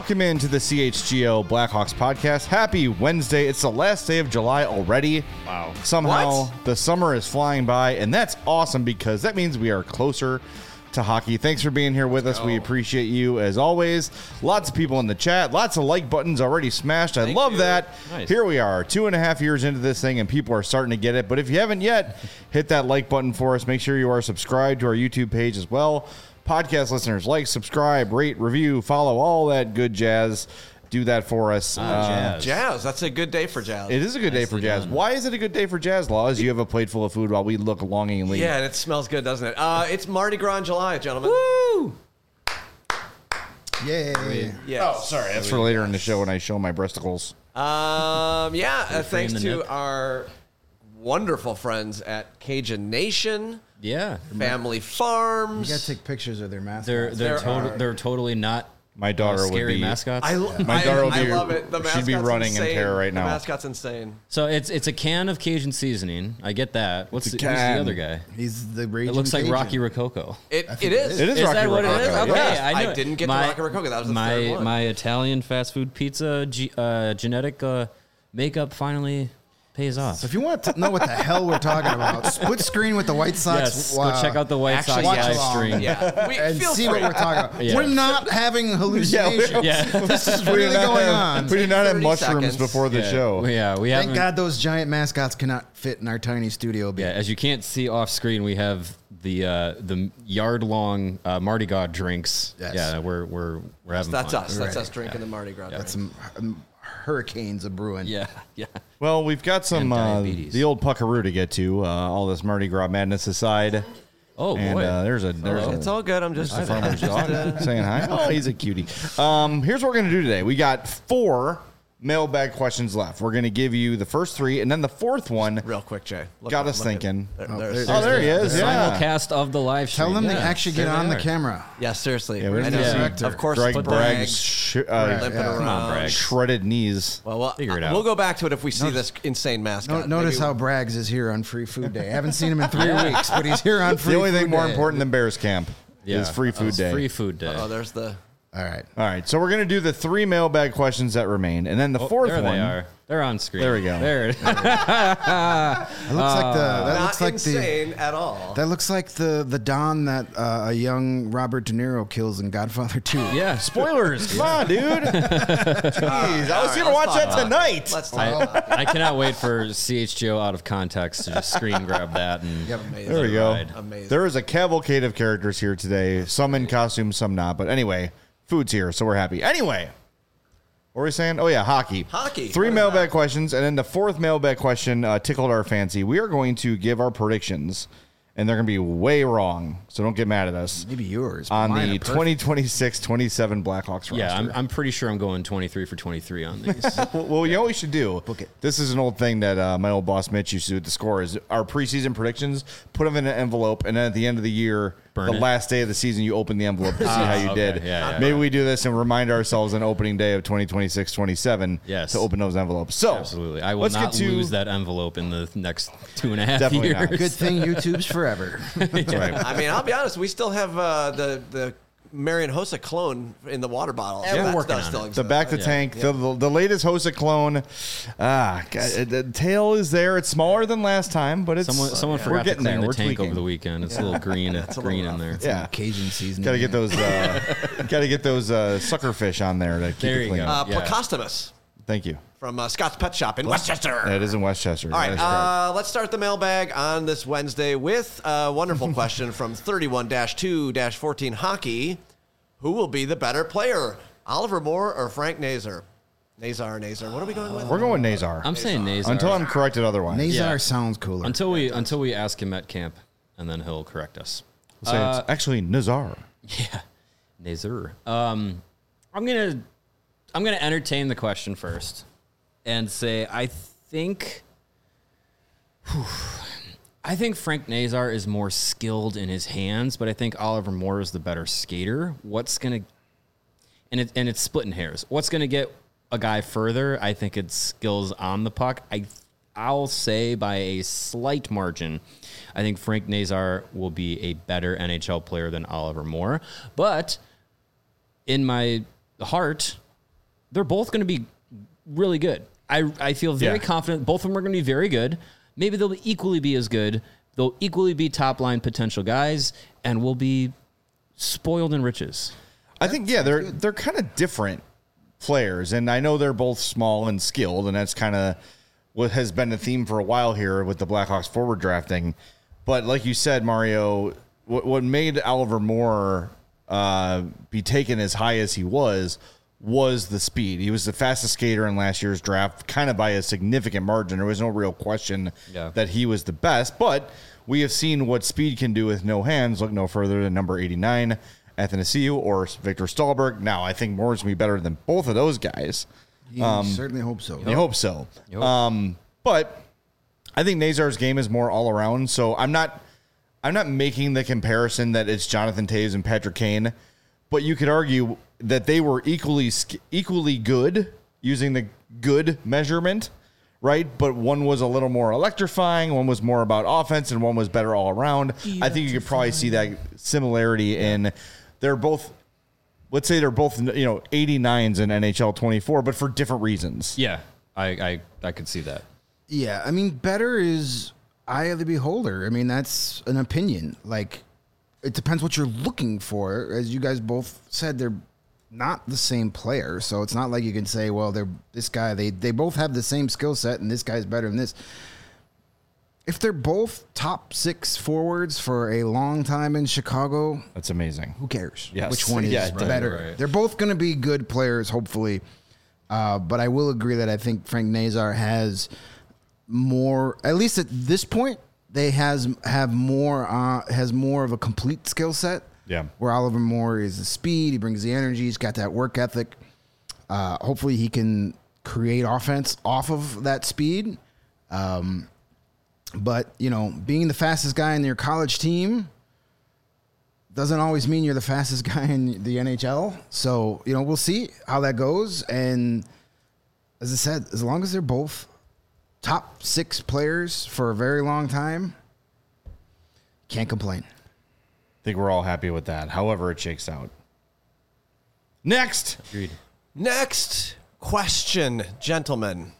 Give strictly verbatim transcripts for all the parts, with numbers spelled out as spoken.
Welcome into the C H G O Blackhawks podcast. Happy Wednesday. It's the last day of July already. Wow. Somehow What? the summer is flying by, and that's awesome because that means we are closer to hockey. Thanks for being here with us. We appreciate you as always. Lots of people in the chat. Lots of like buttons already smashed. I Thank love you. that. Nice. Here we are, two and a half years into this thing, and people are starting to get it. But if you haven't yet, hit that like button for us. Make sure you are subscribed to our YouTube page as well. Podcast listeners, like, subscribe, rate, review, follow, all that good jazz. Do that for us. Ah, Uh, jazz. Jazz. That's a good day for Jazz. It is a good day for Nicely jazz. done. Why is it a good day for jazz, Laws? You have a plate full of food while we look longingly. Yeah, and it smells good, doesn't it? Uh, it's Mardi Gras in July, gentlemen. Woo! Yay. Yes. Oh, sorry. That's for later in the show when I show my breasticles. Um, yeah, uh, free in thanks the to nip? our wonderful friends at Cajun Nation, Yeah. Family You Farms. gotta take pictures of their mascots. They're they're There total, are- they're totally not My daughter uh, would scary be. mascots. I, My I, daughter would I be- love it. The she'd be mascot's running in insane. terror right now. The mascot's insane. so it's it's a can of Cajun seasoning. I get that. What's It's the, a who's can. the other guy? He's the It raging looks like Cajun. Rocky Rococo. It, I it think is. it is. It is Is Rocky that what it is? Rococo, Okay, yes. I, knew I it. didn't get my, to Rocky Rococo. That was the my third one. my Italian fast food pizza ge- uh, genetic uh, makeup finally pays off. So if you want to know what the hell we're talking about, split screen with the White Sox. Yes, wow, go check out the White Actually, Sox yeah. live Watch stream. along. Yeah. We, and feel see free. what we're talking about. Yeah. We're not having hallucinations. Yeah. This is We did really not going have, on. We did not have thirty mushrooms seconds. before the yeah. show. Yeah, we Thank haven't. God those giant mascots cannot fit in our tiny studio. Baby. Yeah, as you can't see off screen, we have the uh, the yard long uh, Mardi Gras drinks. Yes. Yeah, we're we're we're having That's fun. us. That's Right. us drinking the Mardi Gras. Got some um, hurricanes a brewing. Yeah, yeah. Well, we've got some And uh, diabetes. the old puckaroo to get to. Uh, all this Mardi Gras madness aside, Oh and boy. uh, there's a there's a, It's all good. I'm just. the farmer's dog saying hi. Oh, he's a cutie. Um, here's what we're gonna do today. We got four mailbag questions left. We're gonna give you the first three, and then the fourth one Real quick, Jay. Look got at- us look at- thinking. there- Oh, there's- there- Oh, there he the is. Yeah. simulcast of the live stream. Tell them to Yeah, actually get there on they the are. camera. Yeah, seriously. Yeah, we're I gonna know. see Of course, Greg Bragg. Bragg's sh- uh, Right. limping Yeah. around. Come on, Bragg. shredded knees. Well, well Figure it out. we'll go back to it if we see this insane mascot. No, notice Maybe- how Braggs is here on Free Food Day. I haven't seen him in three weeks, but he's here on Free The only Food thing more Day. important than Bears Camp Yeah. is free food It's day. Free food day. Oh, there's the. All right. All right, so we're gonna do the three mailbag questions that remain, and then the Oh, fourth there one. they are. They're on screen. There we go. There. it is. It looks like the that Not looks like the insane at all. that looks like the the Don that uh, a young Robert De Niro kills in Godfather two. yeah. Spoilers, come on, dude. Jeez, I was gonna watch that tonight. Let's talk I, about I cannot wait for C H G O out of context to just screen grab that and Yep. amazing. There we go. Ride. Amazing. There is a cavalcade of characters here today. Some in costume, some not. But anyway, food's here, so we're happy. Anyway, what were we saying? Oh yeah, hockey. Hockey. Three What is mailbag that? questions, and then the fourth mailbag question uh, tickled our fancy. We are going to give our predictions, and they're going to be way wrong. So don't get mad at us Maybe yours. but on mine the are perfect. twenty twenty-six twenty-seven Blackhawks roster. yeah, I'm, I'm pretty sure I'm going twenty-three for twenty-three on these. Well, well, you know what we should do? Book it. This is an old thing that uh, my old boss Mitch used to do at the score is our preseason predictions, put them in an envelope, and then at the end of the year, Burn the it. last day of the season, you open the envelope to see how you okay. did. Yeah, yeah, Maybe we do this and remind ourselves on opening day of twenty twenty-six twenty-seven Yes. to open those envelopes. So Absolutely. I will let's not get to, lose that envelope in the next two and a half Definitely years. not. Good thing YouTube's forever. That's right. I mean, I'll be honest. We still have uh, the the Marion Hossa clone in the water bottle. Yeah, we're That working does on still it. exist. The back to Yeah. tank, the, the the latest Hossa clone. Ah, God, the tail is there. It's smaller than last time, but it's Someone, someone we're forgot to getting clean there. the We're tank tweaking. over the weekend. It's a little green, a green little in there. rough. Yeah. Cajun season. Got to get those. Uh, Got to get those uh, suckerfish on there to keep There it you clean. go. Uh, Yeah. Placostomus Thank you. from uh, Scott's Pet Shop in Westchester. That is in Westchester. All right, That is correct. uh, let's start the mailbag on this Wednesday with a wonderful question from thirty-one dash two dash fourteen Hockey. Who will be the better player, Oliver Moore or Frank Nazar? Nazar, Nazar. What are we going with? We're going Nazar. I'm saying Nazar. Until I'm corrected otherwise. Nazar Yeah. sounds cooler. Until we until we ask him at camp, and then he'll correct us. Say it's actually Nazar. Yeah, Nazar. Um, I'm gonna I'm gonna entertain the question first, and say I think. Whew, I think Frank Nazar is more skilled in his hands, but I think Oliver Moore is the better skater. What's gonna and it and it's splitting hairs. What's gonna get a guy further? I think it's skills on the puck. I I'll say by a slight margin, I think Frank Nazar will be a better N H L player than Oliver Moore. But in my heart, they're both going to be really good. I I feel very Yeah. confident both of them are going to be very good. Maybe they'll equally be as good. They'll equally be top line potential guys, and we'll be spoiled in riches. I think yeah, they're they're kind of different players, and I know they're both small and skilled, and that's kind of what has been the theme for a while here with the Blackhawks forward drafting. But like you said, Mario, what, what made Oliver Moore uh, be taken as high as he was was the speed. He was the fastest skater in last year's draft, kind of by a significant margin. There was no real question Yeah. that he was the best, but we have seen what speed can do with no hands. Look no further than number eighty-nine, Athanasiou, or Victor Stahlberg. Now, I think Moore's going to be better than both of those guys. You certainly hope so. I hope so. Yep. Um, but I think Nazar's game is more all around. So I'm not, I'm not making the comparison that it's Jonathan Toews and Patrick Kane, but you could argue that they were equally sk- equally good using the good measurement, right? But one was a little more electrifying, one was more about offense, and one was better all around. I think you could probably see that similarity in they're both. Let's say they're both, you know, eighty-nines in N H L twenty-four, but for different reasons. Yeah, I I, I could see that. Yeah, I mean, better is eye of the beholder. I mean, that's an opinion. Like, it depends what you're looking for. As you guys both said, they're not the same player, so it's not like you can say, well, they're this guy. They they both have the same skill set, and this guy's better than this. If they're both top six forwards for a long time in Chicago, That's amazing. who cares? Yes. Which one is Yeah, it does. better? Right. They're both going to be good players, hopefully. Uh, but I will agree that I think Frank Nazar has more, at least at this point, they has have more uh, has more of a complete skill set. Yeah. Where Oliver Moore is the speed, he brings the energy, he's got that work ethic. Uh, hopefully, he can create offense off of that speed. Um, But, you know, being the fastest guy in your college team doesn't always mean you're the fastest guy in the N H L. So, you know, we'll see how that goes. And as I said, as long as they're both top six players for a very long time, can't complain. I think we're all happy with that, however it shakes out. Next. Agreed. Next question, gentlemen.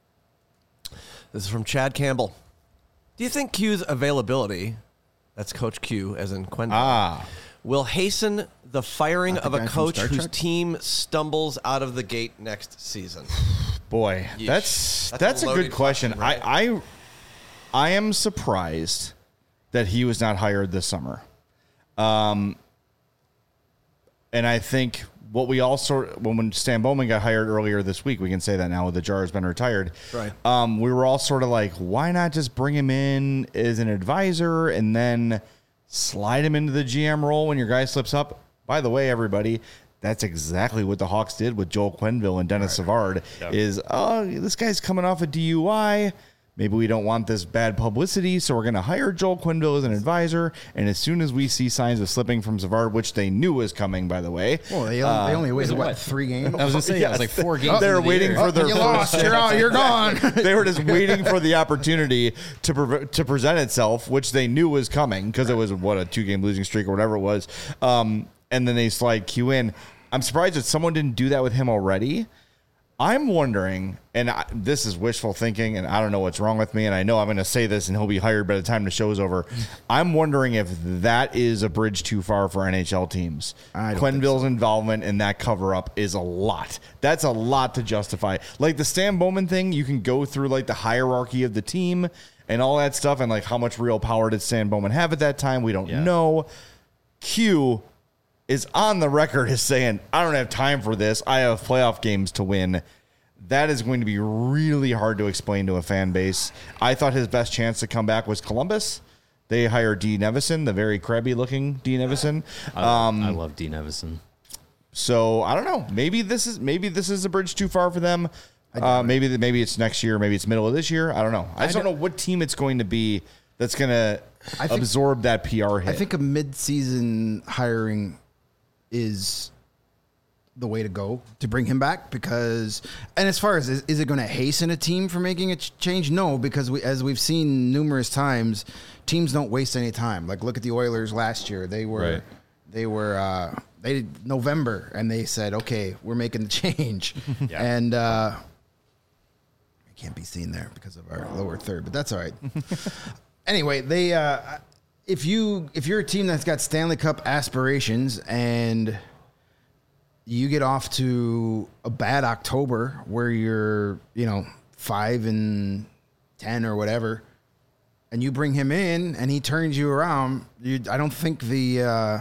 This is from Chad Campbell. Do you think Q's availability, that's Coach Q as in Quenville, Ah. will hasten the firing Not the of a guy from coach Star whose Trek? team stumbles out of the gate next season? Boy, Yeesh. that's That's that's, a a, loaded good question. question, right? I, I I am surprised that he was not hired this summer. Um and I think what we all sort when, when Stan Bowman got hired earlier this week, we can say that now the Jar has been retired. Right. Um, we were all sort of like, why not just bring him in as an advisor and then slide him into the G M role when your guy slips up? By the way, everybody, that's exactly what the Hawks did with Joel Quenneville and Dennis Savard. Yeah. Is oh, this guy's coming off a D U I. Maybe we don't want this bad publicity, so we're going to hire Joel Quenneville as an advisor. And as soon as we see signs of slipping from Savard, which they knew was coming, by the way, Well, they, only- they only waited, what? what, three games? I was gonna say yeah, it was like four games. They're into the waiting year. for their you first lost. You're out. You're gone. they were just waiting for the opportunity to pre- to present itself, which they knew was coming because it was what a two game losing streak or whatever it was. Um, and then they slide Q in. I'm surprised that someone didn't do that with him already. I'm wondering, and I, this is wishful thinking, and I don't know what's wrong with me, and I know I'm going to say this, and he'll be hired by the time the show's over. I'm wondering if that is a bridge too far for N H L teams. I don't think Quenneville's involvement in that cover-up is a lot. That's a lot to justify. Like the Stan Bowman thing, you can go through like the hierarchy of the team and all that stuff, and like how much real power did Stan Bowman have at that time? We don't Yeah. know. Q is on the record as saying, I don't have time for this. I have playoff games to win. That is going to be really hard to explain to a fan base. I thought his best chance to come back was Columbus. They hired Dean Evison, the very crabby looking Dean Evison. I, Um, I love Dean Evison. so I don't know. Maybe this is maybe this is a bridge too far for them. Uh, maybe the, maybe it's next year. Maybe it's middle of this year. I don't know. I just don't know what team it's going to be that's going to I think- absorb that P R hit. I think a mid-season hiring is the way to go to bring him back because, and as far as is, is it going to hasten a team for making a ch- change? No, because we, as we've seen numerous times, teams don't waste any time. Like look at the Oilers last year; they were Right. They were uh, they did November, and they said, "Okay, we're making the change." Yeah. And uh, it can't be seen there because of our lower third, but that's all right. Anyway, they uh, if you if you're a team that's got Stanley Cup aspirations and you get off to a bad October where you're, you know, five and ten or whatever, and you bring him in and he turns you around, you, I don't think the uh,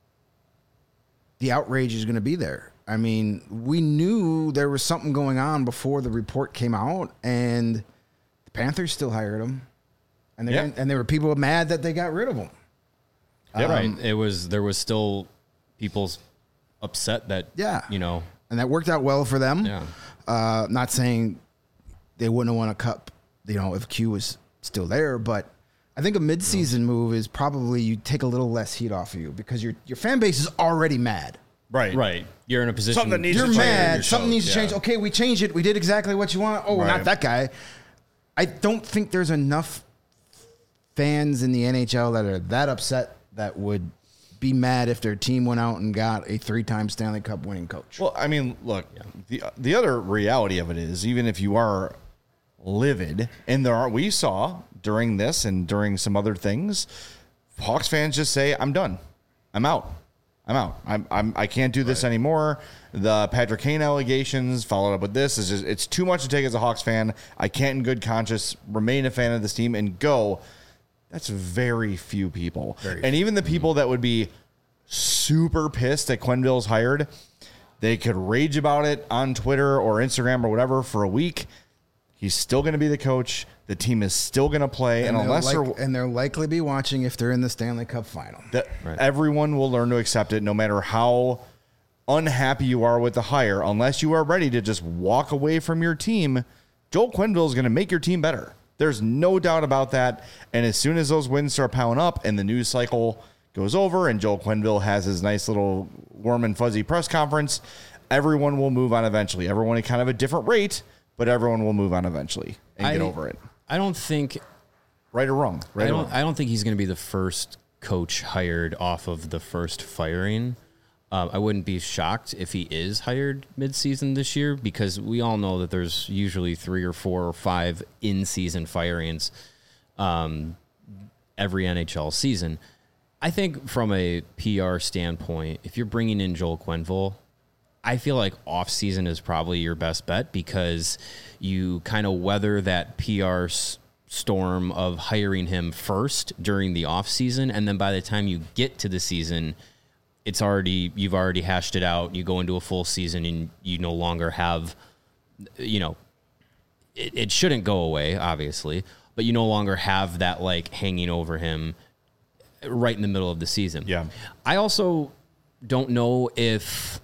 the outrage is going to be there. I mean, we knew there was something going on before the report came out, and the Panthers still hired him, and they Yeah. and there were people mad that they got rid of him. Yeah, right. It was there was still people's upset that Yeah. you know And that worked out well for them. Yeah. Uh, not saying they wouldn't have won a cup, you know, if Q was still there, but I think a midseason move is probably you take a little less heat off of you because your your fan base is already mad. Right. right. You're in a position. Something that needs You're to change. mad. Your Something shows, needs to change. yeah. Okay, we changed it. We did exactly what you want. Oh, Right. not that guy. I don't think there's enough fans in the N H L that are that upset that would be mad if their team went out and got a three-time Stanley Cup winning coach. Well, I mean, look, the the other reality of it is, even if you are livid, and there are, we saw during this and during some other things, Hawks fans just say, "I'm done. I'm out. I'm out. I'm, I'm I can't do this anymore." The Patrick Kane allegations followed up with this is just, it's too much to take as a Hawks fan. I can't, in good conscience, remain a fan of this team and go. That's very few people. Very and even the people that would be super pissed that Quenneville's hired, they could rage about it on Twitter or Instagram or whatever for a week. He's still going to be the coach. The team is still going to play. And, And, unless they'll they're, like, and they'll likely be watching if they're in the Stanley Cup final. that Right. everyone will learn to accept it no matter how unhappy you are with the hire. Unless you are ready to just walk away from your team, Joel Quenneville is going to make your team better. There's no doubt about that. And as soon as those wins start piling up and the news cycle goes over and Joel Quenneville has his nice little warm and fuzzy press conference, everyone will move on eventually. Everyone at kind of a different rate, but everyone will move on eventually and get I- over it. I don't think Right or wrong? Right I or don't. wrong? I don't think he's going to be the first coach hired off of the first firing. Um, I wouldn't be shocked if he is hired mid-season this year because we all know that there's usually three or four or five in-season firings um, every N H L season. I think from a P R standpoint, if you're bringing in Joel Quenneville, I feel like off-season is probably your best bet because you kind of weather that P R s- storm of hiring him first during the off-season, and then by the time you get to the season, it's already you've already hashed it out. You go into a full season, and you no longer have, you know, it, it shouldn't go away, obviously, but you no longer have that like hanging over him right in the middle of the season. Yeah. I also don't know if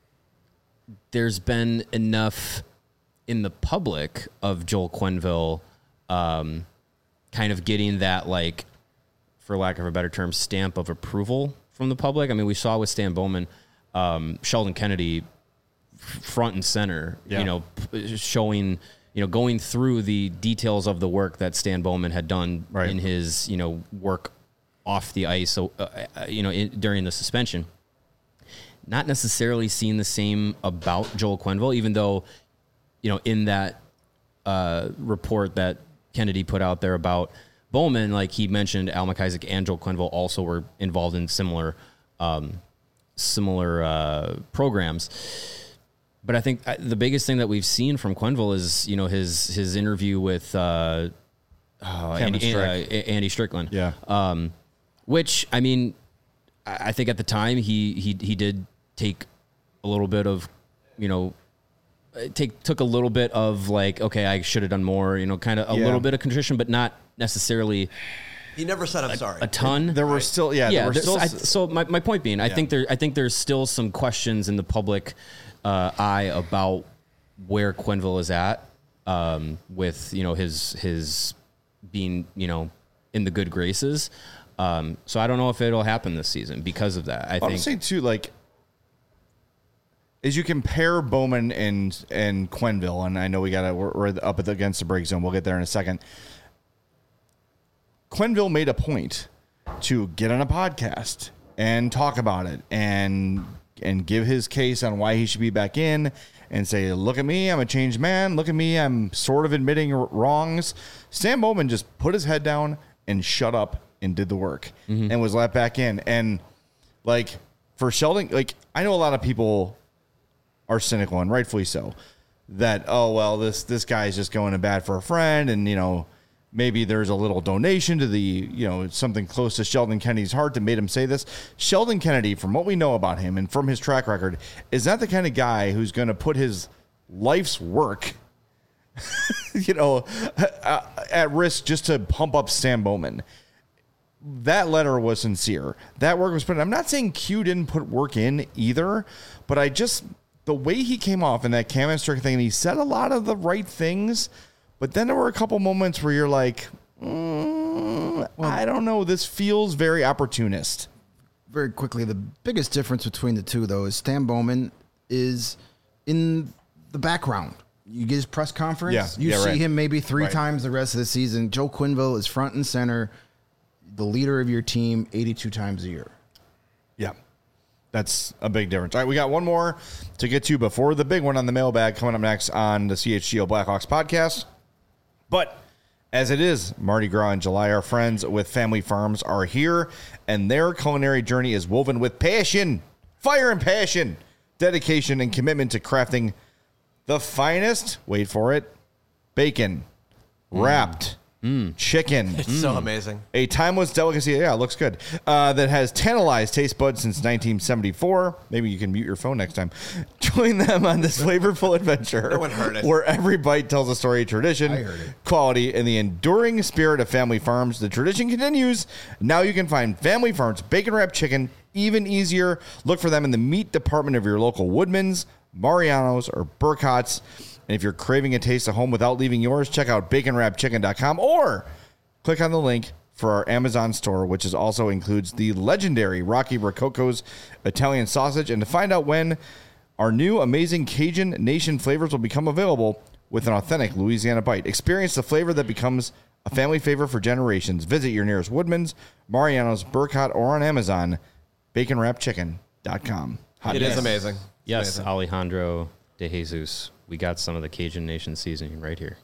there's been enough in the public of Joel Quenneville um, kind of getting that, like, for lack of a better term, stamp of approval from the public. I mean, we saw with Stan Bowman, um, Sheldon Kennedy f- front and center, Yeah. you know, p- showing, you know, going through the details of the work that Stan Bowman had done Right. in his, you know, work off the ice, so, uh, uh, you know, in, during the suspension. Not necessarily seeing the same about Joel Quenneville, even though, you know, in that uh, report that Kennedy put out there about Bowman, like he mentioned, Al McIsaac and Joel Quenneville also were involved in similar, um, similar uh, programs. But I think uh, the biggest thing that we've seen from Quenneville is, you know, his his interview with uh, oh, Andy, Strick. uh, Andy Strickland. Yeah. Um, which, I mean, I I think at the time he he he did take a little bit of, you know, take took a little bit of like, okay, I should have done more, you know, kind of a Yeah. little bit of contrition, but not necessarily He never said I'm sorry. a ton. There were still, yeah, there yeah. were there's- still. I, so my, my point being, I Yeah. think there I think there's still some questions in the public uh, eye about where Quenneville is at um, with, you know, his his being, you know, in the good graces. Um, so I don't know if it'll happen this season because of that. I I would think say too, like, as you compare Bowman and and Quenneville, and I know we got to we're, we're up at the, against the break zone. We'll get there in a second. Quenneville made a point to get on a podcast and talk about it and and give his case on why he should be back in and say, look at me, I'm a changed man. Look at me, I'm sort of admitting wrongs. Stan Bowman just put his head down and shut up and did the work mm-hmm. and was let back in. And like for Sheldon, like I know a lot of people are cynical and rightfully so that, oh, well, this, this guy's just going to bat for a friend. And, you know, maybe there's a little donation to the, you know, something close to Sheldon Kennedy's heart that made him say this. Sheldon Kennedy, from what we know about him and from his track record, is not the kind of guy who's going to put his life's work, you know, at risk just to pump up Stan Bowman. That letter was sincere. That work was put in. I'm not saying Q didn't put work in either, but I just, the way he came off in that Cam and Strick thing, and he said a lot of the right things, but then there were a couple moments where you're like, mm, well, I don't know. This feels very opportunist. Very quickly, the biggest difference between the two, though, is Stan Bowman is in the background. You get his press conference. Yeah, you yeah, see right. him maybe three right. times the rest of the season. Joe Quenneville is front and center, the leader of your team eighty-two times a year. Yeah. That's a big difference. All right, we got one more to get to before the big one on the mailbag coming up next on the C H G O Blackhawks podcast. But as it is Mardi Gras in July, our friends with Family Farms are here, and their culinary journey is woven with passion, fire and passion, dedication, and commitment to crafting the finest, wait for it, bacon, mm. wrapped mm. chicken. It's mm. so amazing. A timeless delicacy. Yeah, it looks good. Uh, that has tantalized taste buds since nineteen seventy-four. Maybe you can mute your phone next time. Join them on this flavorful adventure. No one heard it. Where every bite tells a story of tradition, I heard it. quality, and the enduring spirit of Family Farms. The tradition continues. Now you can find Family Farms bacon wrapped chicken even easier. Look for them in the meat department of your local Woodman's, Mariano's, or Burkhart's. And if you're craving a taste of home without leaving yours, check out bacon wrap chicken dot com or click on the link for our Amazon store, which is also includes the legendary Rocky Rococo's Italian sausage. And to find out when our new amazing Cajun Nation flavors will become available with an authentic Louisiana bite. Experience the flavor that becomes a family favorite for generations. Visit your nearest Woodman's, Mariano's, Burkhart, or on Amazon, bacon wrap chicken dot com. It is amazing. Yes, amazing. Alejandro De Jesus. We got some of the Cajun Nation seasoning right here.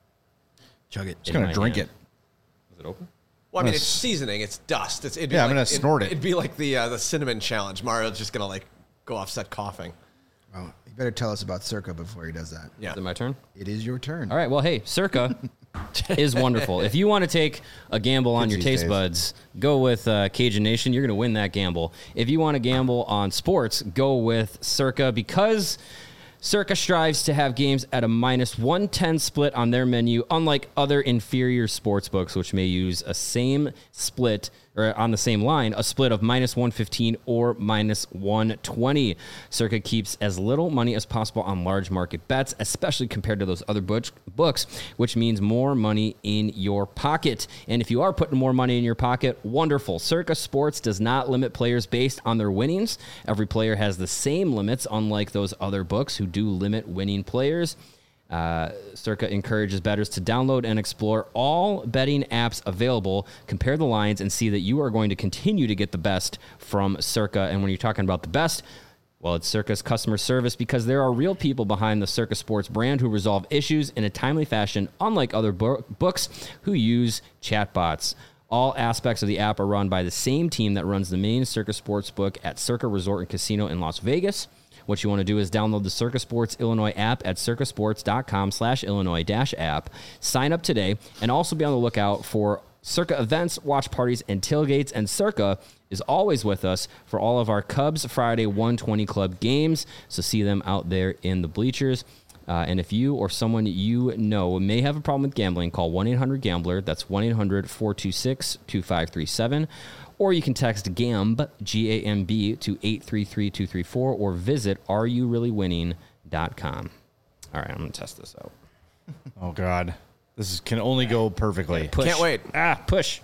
Chug it. Just going to drink hand. it. Is it open? Well, I mean, gonna it's s- seasoning. It's dust. It's, it'd be Yeah, like, I'm gonna snort it. It'd be like the uh, the cinnamon challenge. Mario's just gonna like go offset coughing. Oh, you better tell us about Circa before he does that. Yeah. Is it my turn? It is your turn. All right. Well, hey, Circa is wonderful. If you want to take a gamble on Kids your these taste days. buds, go with uh, Cajun Nation. You're going to win that gamble. If you want to gamble on sports, go with Circa because Circa strives to have games at a minus one ten split on their menu, unlike other inferior sports books, which may use a same split or on the same line, a split of minus one fifteen or minus one twenty. Circa keeps as little money as possible on large market bets, especially compared to those other books, books, which means more money in your pocket. And if you are putting more money in your pocket, wonderful. Circa Sports does not limit players based on their winnings. Every player has the same limits, unlike those other books who do limit winning players. Uh, Circa encourages bettors to download and explore all betting apps available, compare the lines, and see that you are going to continue to get the best from Circa. And when you're talking about the best, well, it's Circa's customer service because there are real people behind the Circa Sports brand who resolve issues in a timely fashion, unlike other bo- books who use chatbots. All aspects of the app are run by the same team that runs the main Circa Sports book at Circa Resort and Casino in Las Vegas. What you want to do is download the Circa Sports Illinois app at circasports.com slash Illinois dash app. Sign up today and also be on the lookout for Circa events, watch parties, and tailgates. And Circa is always with us for all of our Cubs Friday one twenty Club games. So see them out there in the bleachers. Uh, and if you or someone you know may have a problem with gambling, call one eight hundred gambler. That's one eight hundred four two six two five three seven. Or you can text GAMB, G A M B, to eight three three two three four or visit are you really winning dot com. All right, I'm going to test this out. Oh, God. This is, can only go perfectly. Push. Can't wait. Ah, push.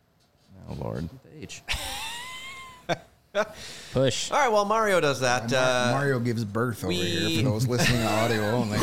Oh, Lord. H. Push. All right, well, Mario does that. Mar- Uh, Mario gives birth over we- here for those listening to audio only.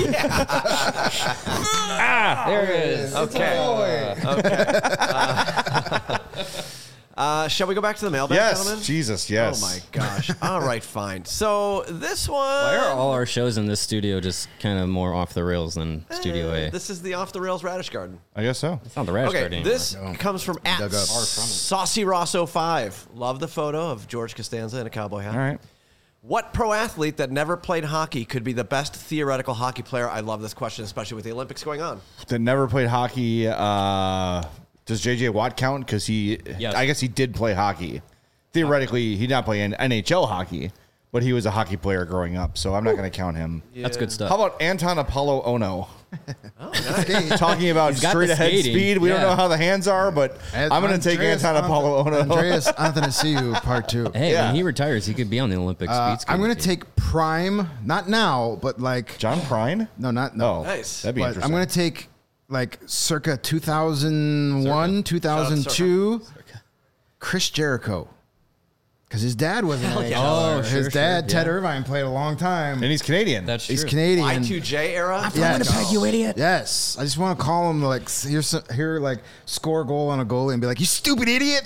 Ah, there it is. okay. Okay. Uh, Uh, shall we go back to the mailbag, Yes, gentlemen? Jesus, yes. Oh my gosh. All right, fine. So this one. Why are all our shows in this studio just kind of more off the rails than Studio Eh, A? This is the off the rails radish garden. I guess so. It's not the Radish Okay, Garden anymore. this comes from at Dug up. Saucy Rosso five. Love the photo of George Costanza in a cowboy hat. All right. What pro athlete that never played hockey could be the best theoretical hockey player? I love this question, especially with the Olympics going on. That never played hockey. Uh, does J J Watt count? Because he, Yes. I guess he did play hockey. Theoretically, he did not play in N H L hockey, but he was a hockey player growing up, so I'm not going to count him. That's good stuff. How about Anton Apollo Ono? Skate. Talking about He's got straight the ahead skating. speed. We don't Yeah. know how the hands are, but As- I'm going to take Andreas Anton Anth- Apollo Ono. Andreas Athanasiou, part two. Hey, Yeah. when he retires, he could be on the Olympic Uh, speed skating I'm going to team. take prime, not now, but like John Prine? no, not No. no. Nice. That'd be But interesting. I'm going to take like circa two thousand one, two thousand two, Chris Jericho. Because his dad was an N H L. Oh, His sure, dad, sure, Ted yeah. Irvine, played a long time. and he's Canadian. That's true. He's Canadian. Y two J era? Yes. you idiot. Yes, I just want to call him like hear some, hear like score a goal on a goalie and be like, "You stupid idiot,"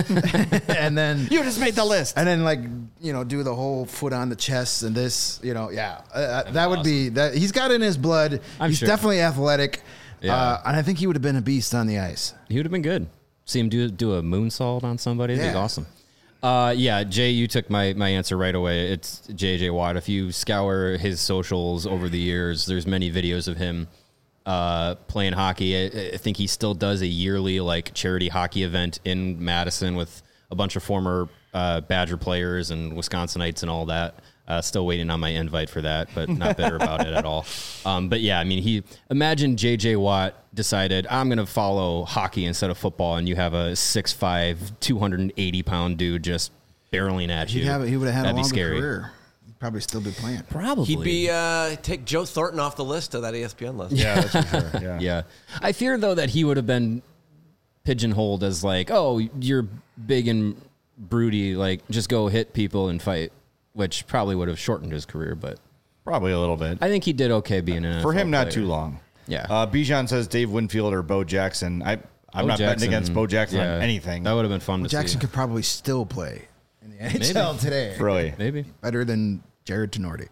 and then you just made the list. and then like you know do the whole foot on the chest and this you know yeah uh, that would be that he's got it in his blood. I'm he's sure. definitely athletic, Yeah. uh, and I think he would have been a beast on the ice. He would have been good. See him do do a moonsault on somebody. That'd be Yeah. awesome. Uh, yeah, Jay, you took my, my answer right away. It's J J Watt. If you scour his socials over the years, there's many videos of him uh, playing hockey. I, I think he still does a yearly like charity hockey event in Madison with a bunch of former uh, Badger players and Wisconsinites and all that. Uh, still waiting on my invite for that, but not bitter about it at all. Um, but yeah, I mean, he imagine J J Watt decided I'm going to follow hockey instead of football, and you have a six five, two hundred eighty pound dude just barreling at you. He'd have he would have had That'd a be longer scary. career. He'd probably still be playing. Probably. He'd be uh, take Joe Thornton off the list of that E S P N list. Yeah, that's for sure. Yeah. Yeah. I fear, though, that he would have been pigeonholed as like, oh, you're big and broody, like just go hit people and fight, which probably would have shortened his career. But Probably a little bit. I think he did okay being an For N F L him, not player. too long. Yeah. Uh, Bijan says Dave Winfield or Bo Jackson. I, I'm Bo not Jackson, betting against Bo Jackson yeah, on anything. That would have been fun to Jackson see. could probably still play in the N H L today. Really. Maybe. Better than Jared Tenorti.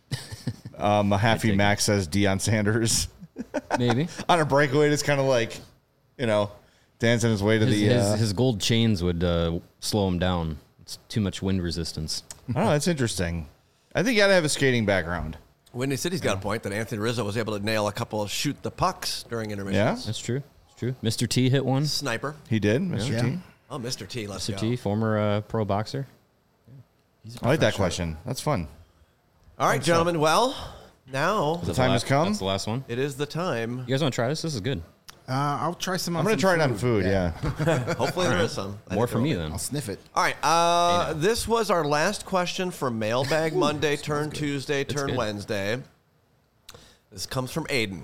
Um, Happy take Max says Deion Sanders. Maybe. On a breakaway, it's kind of like, you know, dancing his way to His, the. his, uh, his gold chains would uh, slow him down. It's too much wind resistance. I don't know. That's interesting. I think you got to have a skating background. Windy City's got a point that Anthony Rizzo was able to nail a couple of shoot the pucks during intermissions. Yeah? That's true. It's true. Mister T hit one. Sniper. He did, Mister Yeah. T. Oh, Mister T, let's Mister go. T, former uh, pro boxer. I like that question. That's fun. All right, gentlemen. Well, now Is that time the has last- come? That's the last one. it is the time. You guys want to try this? This is good. Uh, I'll try some. On I'm going to some try it on food, yeah. Hopefully there is some. I More think for there me will be. then. I'll sniff it. All right. Uh, this was our last question for Mailbag Monday, turn Tuesday, turn good. Wednesday. This comes from Aiden.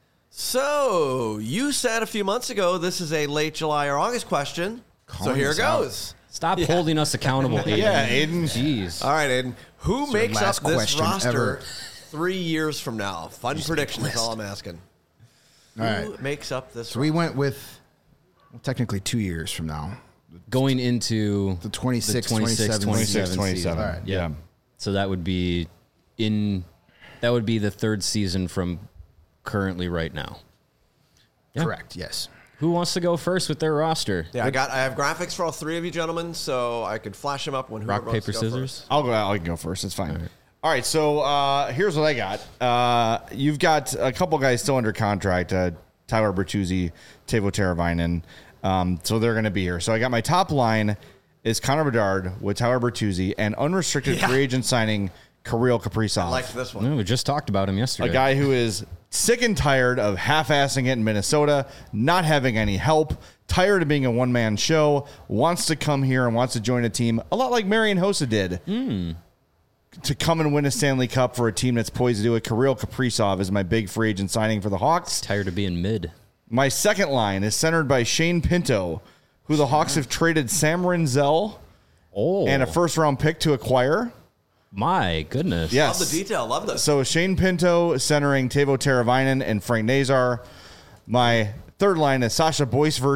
So, you said a few months ago this is a late July or August question. so Calling here it us out. goes. Stop holding us accountable, Aiden. Yeah, Aiden. Jeez. All right, Aiden. Who your makes up last this question roster ever. three years from now? Fun prediction is list. all I'm asking. All Who right. makes up this So we went with well, technically two years from now. Going into The twenty-six, the twenty-six, twenty-seven twenty-six, season. twenty-seven. All right. Yeah. So that would be in that would be the third season from currently right now. Yeah. Correct. Yes. Who wants to go first with their roster? Yeah, I got. I have graphics for all three of you gentlemen, so I could flash them up when whoever Rock, wants paper, to go scissors. first. I'll go. I can go first. It's fine. All right. So uh, here's what I got. Uh, you've got a couple guys still under contract. Uh, Tyler Bertuzzi, Teuvo Teravainen. Um, so they're going to be here. So I got my top line is Connor Bedard with Tyler Bertuzzi and unrestricted Yeah. free agent signing Kirill Kaprizov. I liked this one. No, we just talked about him yesterday. A guy who is sick and tired of half-assing it in Minnesota, not having any help, tired of being a one-man show, wants to come here and wants to join a team, a lot like Marian Hossa did, Mm. to come and win a Stanley Cup for a team that's poised to do it. Kirill Kaprizov is my big free agent signing for the Hawks. Tired of being mid. My second line is centered by Shane Pinto, who the Hawks have traded Sam Renzel Oh, and a first-round pick to acquire. my goodness. Yes. Love the detail. Love this. So Shane Pinto centering Teuvo Teravainen and Frank Nazar. My third line is Sasha Boisvert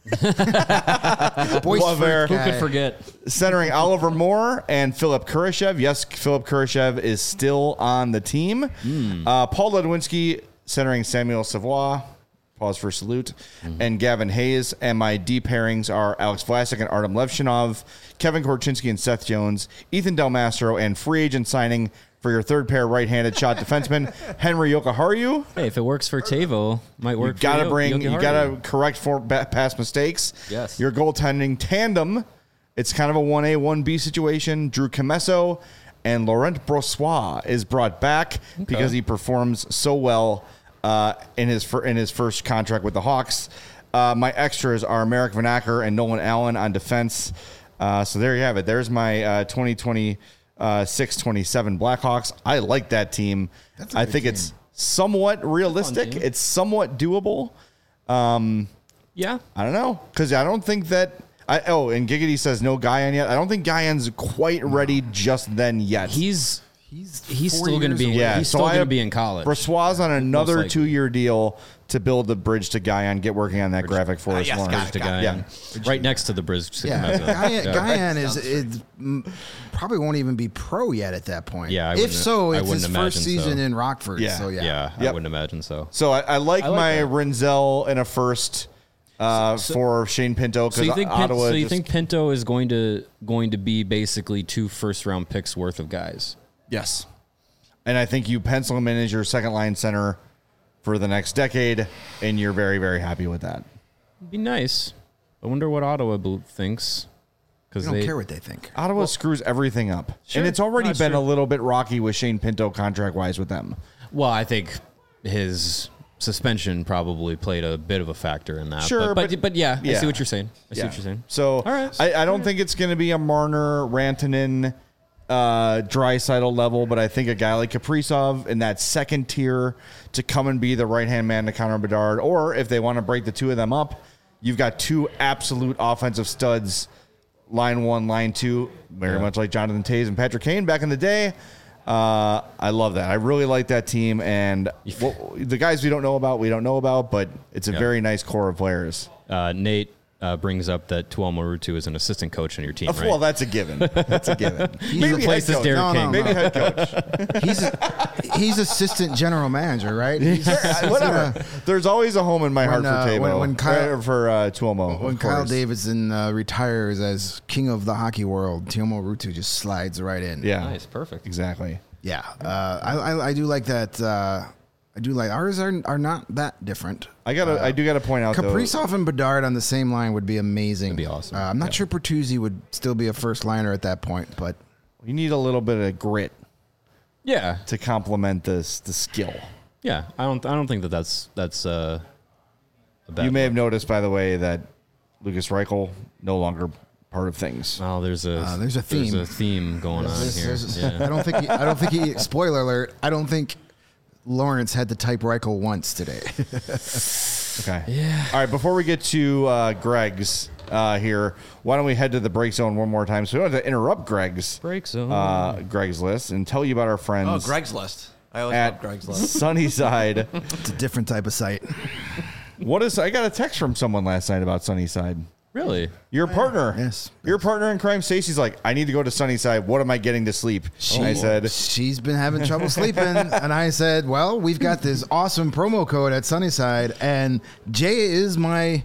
Boys Love freak air. Who guy. could forget? Centering Oliver Moore and Philip Kurashev. Yes, Philip Kurashev is still on the team. Mm. Uh, Paul Ledwinski centering Samuel Savoie. Pause for salute. Mm-hmm. And Gavin Hayes. And my D pairings are Alex Vlasic and Artem Levshinov, Kevin Korchinski and Seth Jones, Ethan Del Mastro, and free agent signing for your third pair right-handed shot defenseman, Henry Yokoharu. Hey, if it works for Tavo, might You work. gotta for bring, Yogi you Hardy. gotta correct for ba- past mistakes. Yes. Your goaltending tandem, it's kind of a one A, one B situation. Drew Camesso and Laurent Brossois is brought back because he performs so well uh, in his fir- in his first contract with the Hawks. Uh, my extras are Merrick Van Acker and Nolan Allen on defense. Uh, so there you have it. There's my uh, twenty twenty-six twenty-seven Blackhawks. I like that team. That's a I good think team. it's somewhat realistic. team. It's somewhat doable. Yeah. I don't know, because I don't think that. I, oh, and Giggity says no Guyan yet. I don't think Guyan's quite ready just then yet. He's He's he's four still going to years be. away. Yeah, he's so still I going to have be in college. Brossois on another likely. two-year deal to build the bridge to Guyan. Get working on that graphic for uh, us, yes, Lawrence. got it, to got Guyan. Yeah. Right next to the bridge to Yeah, Camesso. Guyan, Yeah. Guyan is, is mm, probably won't even be pro yet at that point. Yeah, I if wouldn't- so, I it's wouldn't his imagine first season so. in Rockford. Yeah. So yeah, Yeah, I Yep. wouldn't imagine so. So I, I like I like my that. Rinzel in a first uh, for Shane Pinto So because you think Pin- Ottawa so you just- think Pinto is going to going to be basically two first round picks worth of guys? yes, and I think you pencil him in as your second line center for the next decade, and you're very very happy with that. It'd be nice. I wonder what Ottawa bel- thinks. I Because don't they care what they think. Ottawa screws everything up, Sure. and it's already No, it's been true. a little bit rocky with Shane Pinto contract wise with them. well, I think his suspension probably played a bit of a factor in that. Sure, but but, but- but yeah, I yeah. see what you're saying. I see what you're saying. So All right. I, I don't think it's going to be a Marner, Rantanen, uh, Draisaitl level, but I think a guy like Kaprizov in that second tier to come and be the right hand man to Connor Bedard, or if they want to break the two of them up, you've got two absolute offensive studs, line one, line two, very Yeah. much like Jonathan Toews and Patrick Kane back in the day. Uh, I love that. I really like that team, and well, the guys we don't know about, we don't know about, but it's a Yeah. very nice core of players. Uh, Nate uh, brings up that Tuomo Ruutu is an assistant coach on your team, Oh, right? Well, that's a given. That's a given. He replaces head coach. Derek No, no, King. Maybe no. head coach. He's he's assistant general manager, right? He's, Whatever. There's always a home in my heart When, uh, for Tabo. when- when Kyle- or for uh, Tuomo. When of Kyle course. Davidson uh, retires as king of the hockey world, Tuomo Ruutu just slides right in. Yeah. Nice, perfect. Exactly. Yeah, uh, I, I I do like that. Uh, I do like ours are are not that different. I gotta. I do gotta point out though. Kaprizov and Bedard on the same line would be amazing. That'd be awesome. Uh, I'm not sure Pertuzzi would still be a first liner at that point, but You need a little bit of grit Yeah, to complement this the skill. yeah. I don't. I don't think that that's that's uh, a bad. You may have noticed, by the way, that Lucas Reichel no longer part of things. Oh, there's a Uh, there's a theme. There's a theme going on There's- here. there's- I Yeah. don't think he, I don't think he. Spoiler alert! I don't think Lawrence had to type Reichel once today. Okay. Yeah. All right. Before we get to uh, Greg's uh, here, why don't we head to the break zone one more time? So we don't have to interrupt Greg's Break zone. uh, Greg's list and tell you about our friends Oh, Greg's list. I always love at Greg's list. Sunnyside. It's a different type of site. What is? I got a text from someone last night about Sunnyside. Really? Your partner, Yes. your partner in crime, Stacey's like, I need to go to Sunnyside. What am I getting to sleep? She, And I said, she's been having trouble sleeping, and I said, "Well, we've got this awesome promo code at Sunnyside, and Jay is my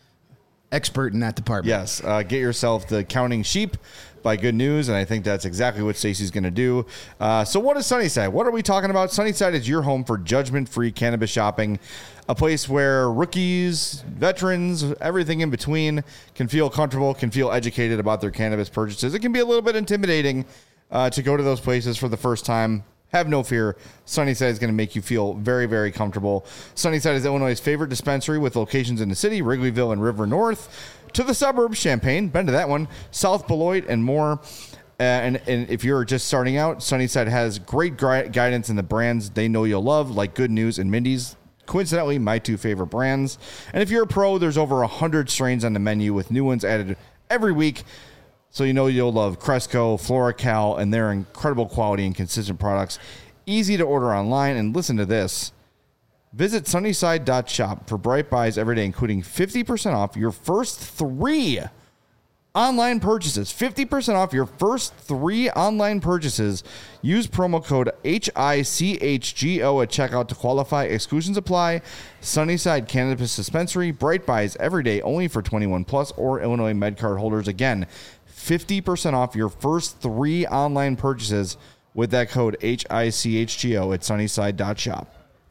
expert in that department." yes, uh, get yourself the Counting Sheep by Good News, and I think that's exactly what Stacey's going to do. Uh, so what is Sunnyside? What are we talking about? Sunnyside is your home for judgment-free cannabis shopping, a place where rookies, veterans, everything in between can feel comfortable, can feel educated about their cannabis purchases. It can be a little bit intimidating uh, to go to those places for the first time. Have no fear. Sunnyside is going to make you feel very, very comfortable. Sunnyside is Illinois' favorite dispensary with locations in the city, Wrigleyville and River North, to the suburbs, Champaign, been to that one, South Beloit, and more. Uh, and, and if you're just starting out, Sunnyside has great gui- guidance in the brands they know you'll love, like Good News and Mindy's. Coincidentally, my two favorite brands. And if you're a pro, there's over one hundred strains on the menu with new ones added every week. So you know you'll love Cresco, FloraCal, and their incredible quality and consistent products. Easy to order online. And listen to this. Visit Sunnyside dot shop for Bright Buys every day, including fifty percent off your first three online purchases. fifty percent off your first three online purchases. Use promo code H I C H G O at checkout to qualify. Exclusions apply. Sunnyside Cannabis Dispensary. Bright Buys every day, only for twenty-one plus or Illinois MedCard holders. Again, fifty percent off your first three online purchases with that code H I C H G O at Sunnyside dot shop.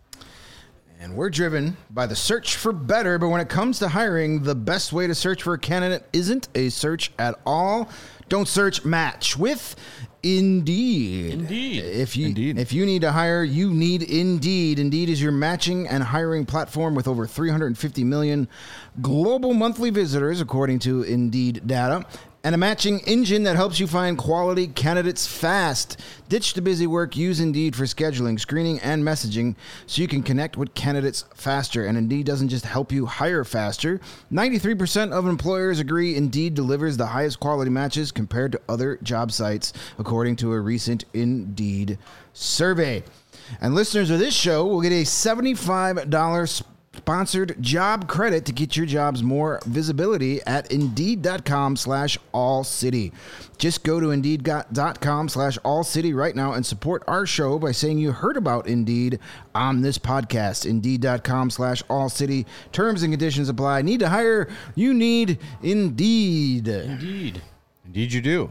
And we're driven by the search for better, but when it comes to hiring, the best way to search for a candidate isn't a search at all. Don't search, match with Indeed. Indeed. If you Indeed. if you need to hire, you need Indeed. Indeed is your matching and hiring platform with over three hundred fifty million global monthly visitors, according to Indeed data. And a matching engine that helps you find quality candidates fast. Ditch the busy work. Use Indeed for scheduling, screening, and messaging so you can connect with candidates faster. And Indeed doesn't just help you hire faster. ninety-three percent of employers agree Indeed delivers the highest quality matches compared to other job sites, according to a recent Indeed survey. And listeners of this show will get a seventy-five dollars sponsored job credit to get your jobs more visibility at Indeed.com slash All City. Just go to Indeed.com slash All City right now and support our show by saying you heard about Indeed on this podcast. Indeed.com slash All City. Terms and conditions apply. Need to hire? You need Indeed. Indeed. Indeed you do.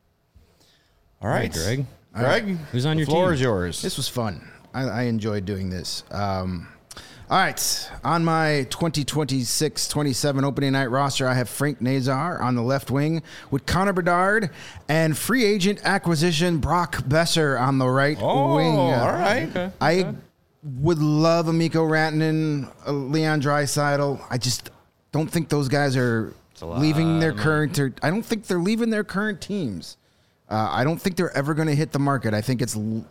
All right, Greg. Greg, Who's on the your floor team? is yours. This was fun. I, I enjoyed doing this. Um, all right. On my twenty twenty-six twenty-seven opening night roster, I have Frank Nazar on the left wing with Connor Bedard and free agent acquisition Brock Besser on the right Oh, wing. all right. Okay. I would love Amico Rantanen, uh, Leon Draisaitl. I just don't think those guys are a lot leaving their of money. current. Or, I don't think they're leaving their current teams. Uh, I don't think they're ever going to hit the market. I think it's l-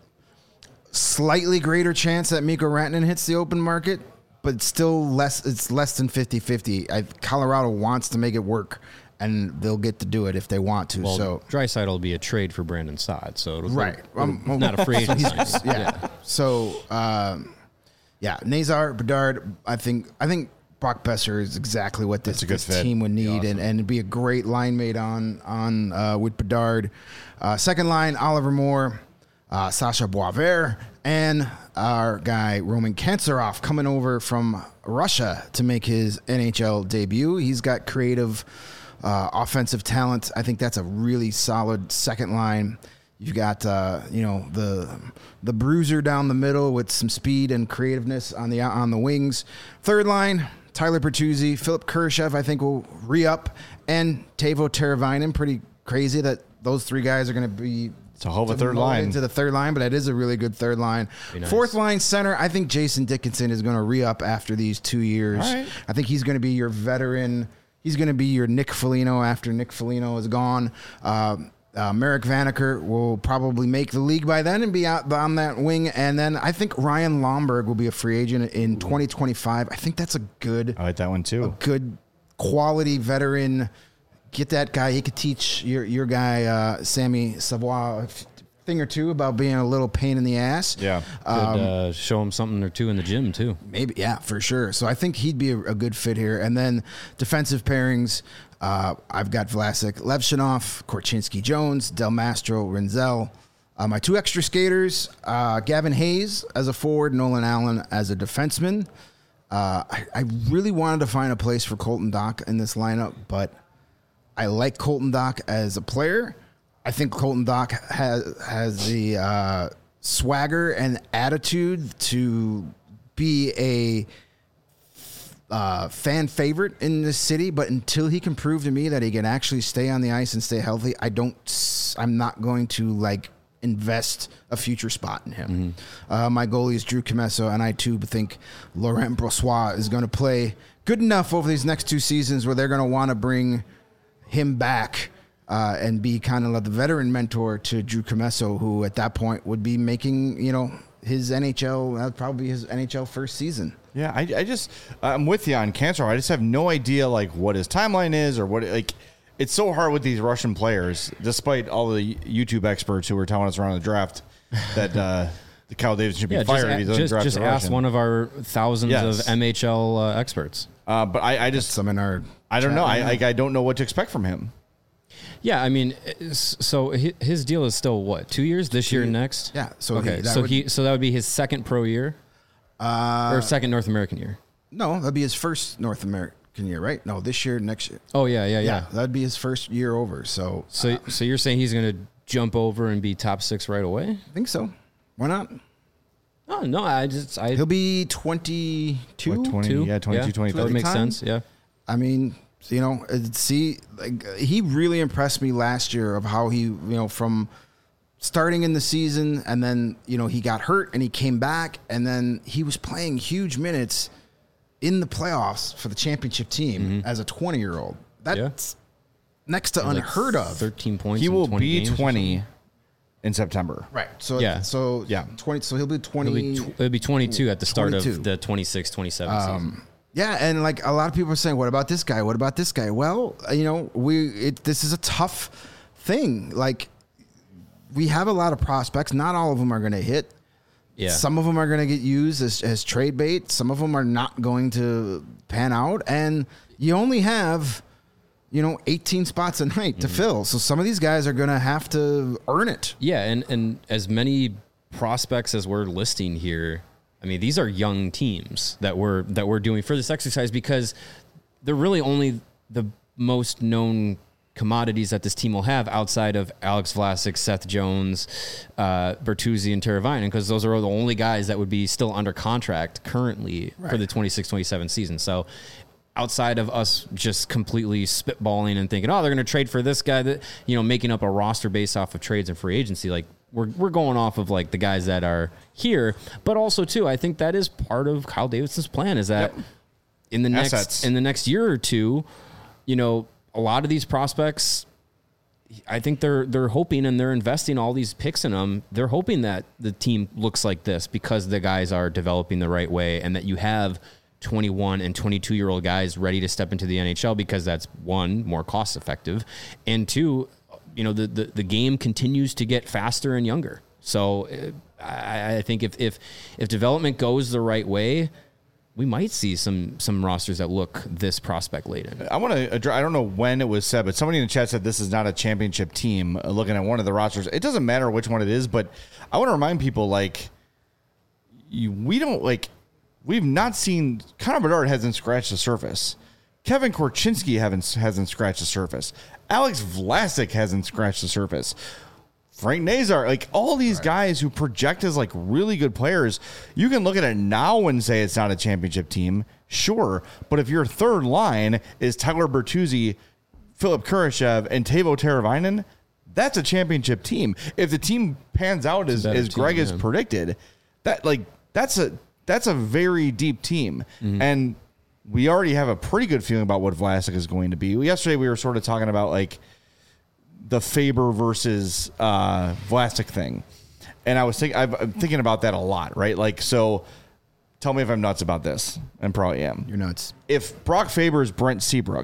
slightly greater chance that Mikko Rantanen hits the open market, but it's still less. It's less than fifty-fifty. I, Colorado wants to make it work, and they'll get to do it if they want to. Well, so Draisaitl will be a trade for Brandon Saad, so it'll right, it'll- Um, well, not a free agent. he's- signing. yeah. So um, yeah, Nazar, Bedard. I think I think Brock Besser is exactly what this, That's a good this fit. team would need, and, and be a great line mate on on uh, with Bedard. Uh, second line, Oliver Moore, uh, Sasha Boisvert, and our guy Roman Kantsarov coming over from Russia to make his N H L debut. He's got creative uh, offensive talent. I think that's a really solid second line. You've got uh, you know the the bruiser down the middle with some speed and creativeness on the on the wings. Third line, Tyler Bertuzzi, Philip Kurashev, I think will re-up, and Teuvo Teravainen. Pretty crazy that those three guys are going to be It's a hell of a third demoted line. into the third line, but it is a really good third line. nice. Fourth line center, I think Jason Dickinson is going to re-up after these two years. All right. I think he's going to be your veteran. He's going to be your Nick Foligno after Nick Foligno is gone. Um, Uh, Merrick Vanacker will probably make the league by then and be out on that wing. And then I think Ryan Lomberg will be a free agent in twenty twenty-five. I think that's a good, I like that one too. good quality veteran. Get that guy. He could teach your your guy uh, Sammy Savoie a f- thing or two about being a little pain in the ass. Yeah. Could uh, show him something or two in the gym too. Maybe, yeah, for sure. So I think he'd be a, a good fit here. And then defensive pairings, uh, I've got Vlasic, Levshinov, Korchinski Jones, Del Mastro, Renzel. Uh, my two extra skaters, uh, Gavin Hayes as a forward, Nolan Allen as a defenseman. Uh, I, I really wanted to find a place for Colton Dock in this lineup, but I like Colton Dock as a player. I think Colton Dock has has the uh, swagger and attitude to be a uh, fan favorite in this city, but until he can prove to me that he can actually stay on the ice and stay healthy, I don't. s- I'm not going to like invest a future spot in him. Uh, my goalie is Drew Comesso, and I too think Laurent Brossoit is going to play good enough over these next two seasons where they're going to want to bring him back uh, and be kind of like the veteran mentor to Drew Comesso, who at that point would be making, you know, his N H L, that'd probably be his N H L first season. Yeah, I, I just I'm with you on Cancer. I just have no idea like what his timeline is or what like. It's so hard with these Russian players, despite all the YouTube experts who were telling us around the draft that uh, Kyle Davidson should be Yeah, fired. just, if he a- doesn't just, draft just a ask Russian. one of our thousands Yes. of M H L uh, experts. Uh, but I, I just, Some in our I don't chat know. right I, now. like, I don't know what to expect from him. Yeah, I mean, it's- so hi- his deal is still what, two years? This year and next? Yeah, so okay, he- that so would- he so that would be his second pro year, Uh, or second North American year. no, that'd be his first North American year, right? No, this year, next year. Oh yeah, yeah, yeah. Yeah, that'd be his first year over. So So so you're saying he's going to jump over and be top six right away? I think so. Why not? Oh no, I just I He'll be twenty-two. What, twenty? two, Yeah, twenty-two, That twenty-three. would make Time? sense. Yeah. I mean, you know, uh, see, like he really impressed me last year of how he, you know, from starting in the season and then, you know, he got hurt and he came back and then he was playing huge minutes in the playoffs for the championship team as a twenty-year-old. That's next to Like unheard of. Thirteen points. He in will twenty be games or twenty in September. Right. So Yeah. So Yeah. twenty. So he'll be twenty. something. It'll be, tw- it'll be twenty-two at the start twenty-two. of the twenty-six twenty-seven season. Um, yeah, and like a lot of people are saying, "What about this guy? What about this guy?" Well, you know, we it, this is a tough thing. Like we have a lot of prospects. Not all of them are going to hit. Yeah. Some of them are going to get used as, as trade bait. Some of them are not going to pan out. And you only have, you know, eighteen spots a night to fill. So some of these guys are going to have to earn it. Yeah, and, and as many prospects as we're listing here, I mean, these are young teams that we're that we're doing for this exercise because they're really only the most known commodities that this team will have outside of Alex Vlasic, Seth Jones, uh, Bertuzzi, and Teravainen, because those are the only guys that would be still under contract currently for the twenty-six twenty-seven season. So outside of us just completely spitballing and thinking, oh, they're going to trade for this guy, that, you know, making up a roster based off of trades and free agency, like we're, we're going off of like the guys that are here. But also too, I think that is part of Kyle Davidson's plan is that Yep. in the next, Assets. in the next year or two, you know, a lot of these prospects, I think they're they're hoping and they're investing all these picks in them. They're hoping that the team looks like this because the guys are developing the right way and that you have twenty-one and twenty-two year old guys ready to step into the N H L because that's one, more cost effective, and two, you know, the the, the game continues to get faster and younger. So uh, I, I think if if if development goes the right way, we might see some some rosters that look this prospect laden. I want to address, I don't know when it was said, but somebody in the chat said this is not a championship team. Uh, looking at one of the rosters, it doesn't matter which one it is, but I want to remind people, like, you, we don't, like, we've not seen, Connor Bedard hasn't scratched the surface. Kevin Korchinski haven't, hasn't scratched the surface. Alex Vlasic hasn't scratched the surface. Frank Nazar, like all these right. guys who project as like really good players, you can look at it now and say it's not a championship team, sure. But if your third line is Tyler Bertuzzi, Philip Kurashev, and Teuvo Teravainen, that's a championship team. If the team pans out as, as Greg team, has yeah. predicted, that like that's a that's a very deep team. Mm-hmm. And we already have a pretty good feeling about what Vlasic is going to be. Yesterday we were sort of talking about like the Faber versus uh, Vlasic thing. And I was thinking, I'm thinking about that a lot, right? Like, so tell me if I'm nuts about this. I probably am. You're nuts. If Brock Faber is Brent Seabrook,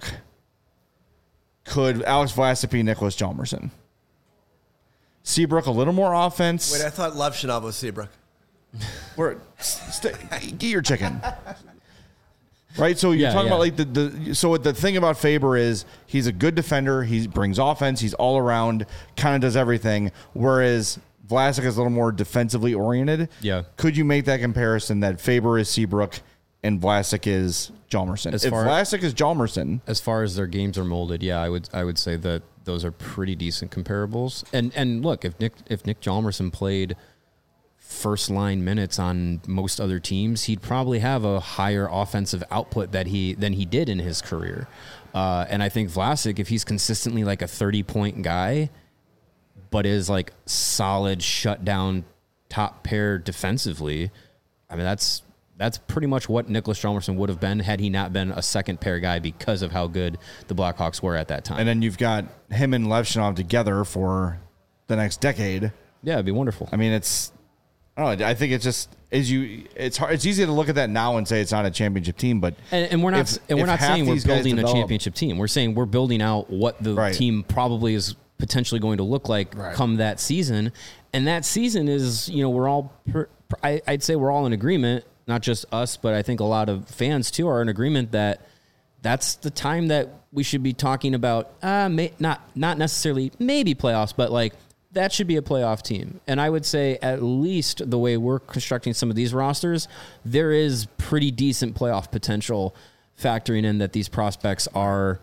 could Alex Vlasic be Nicholas Hjalmarsson? Seabrook, a little more offense. Wait, I thought Levshinov was Seabrook. Where, st- get your chicken. Right, so you're yeah, talking yeah. about like the, the so the thing about Faber is he's a good defender. He brings offense. He's all around, kind of does everything. Whereas Vlasic is a little more defensively oriented. Yeah. Could you make that comparison that Faber is Seabrook and Vlasic is Hjalmarsson? As if far- Vlasic is Hjalmarsson, as far as their games are molded, yeah, I would I would say that those are pretty decent comparables. And and look, if Nick if Nick Hjalmarsson played first line minutes on most other teams, he'd probably have a higher offensive output that he than he did in his career. Uh, and I think Vlasic, if he's consistently like a thirty point guy, but is like solid shutdown top pair defensively, I mean that's that's pretty much what Nicholas Hjalmarsson would have been had he not been a second pair guy because of how good the Blackhawks were at that time. and then you've got him and Levshinov together for the next decade. Yeah, it'd be wonderful. I mean, it's. I don't know. I think it's just as you. It's hard. It's easy to look at that now and say it's not a championship team, but And, and we're not if- and we're if not half saying we're these guys building a develop- championship team. We're saying we're building out what the Right. team probably is potentially going to look like Right. come that season. And that season is, you know, we're all per, I, I'd say we're all in agreement, not just us, but I think a lot of fans too are in agreement that that's the time that we should be talking about, uh, may, not not necessarily maybe playoffs, but like that should be a playoff team. And I would say at least the way we're constructing some of these rosters, there is pretty decent playoff potential factoring in that these prospects are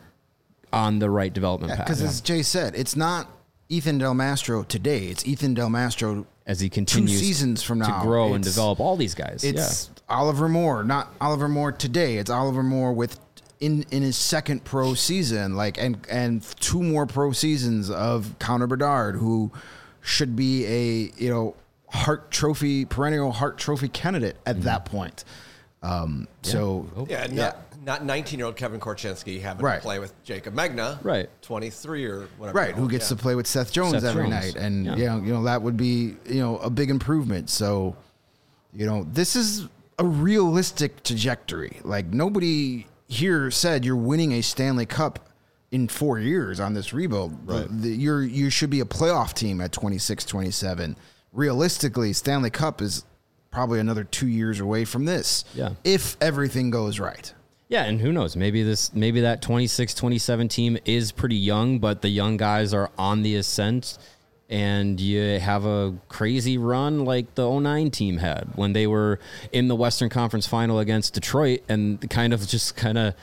on the right development path. Because as Jay said, it's not Ethan Del Mastro today. It's Ethan Del Mastro as he continues two seasons from now to grow it's, and develop all these guys. It's yeah. Oliver Moore, not Oliver Moore today. It's Oliver Moore with in in his second pro season, like and and two more pro seasons of Connor Bedard, who should be a you know Hart Trophy perennial Hart Trophy candidate at mm-hmm. that point. Um, yeah. So oh. yeah, yeah. not not nineteen-year-old Kevin Korchinski having right. to play with Jacob Megna, right? twenty-three or whatever, right? Who gets yeah. to play with Seth Jones Seth every Jones. night, and yeah. you know, you know that would be you know a big improvement. So, you know, this is a realistic trajectory. Like nobody here said you're winning a Stanley Cup in four years on this rebuild. Right. The, the, you're you should be a playoff team at twenty-six, twenty-seven. Realistically, Stanley Cup is probably another two years away from this. Yeah. If everything goes right. Yeah, and who knows? Maybe this, maybe that twenty-six twenty-seven team is pretty young, but the young guys are on the ascent, and you have a crazy run like the oh nine team had when they were in the Western Conference Final against Detroit, and kind of just kind of,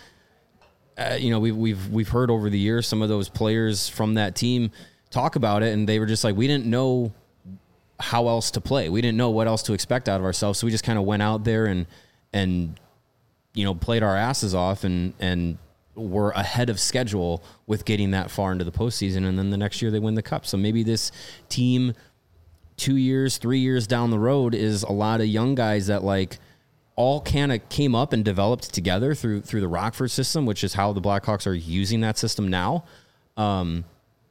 uh, you know, we've we've we've heard over the years some of those players from that team talk about it, and they were just like, we didn't know how else to play. We didn't know what else to expect out of ourselves, so we just kind of went out there and and. you know, played our asses off and, and were ahead of schedule with getting that far into the postseason. And then the next year they win the cup. So maybe this team two years, three years down the road is a lot of young guys that like all kind of came up and developed together through, through the Rockford system, which is how the Blackhawks are using that system now. Um,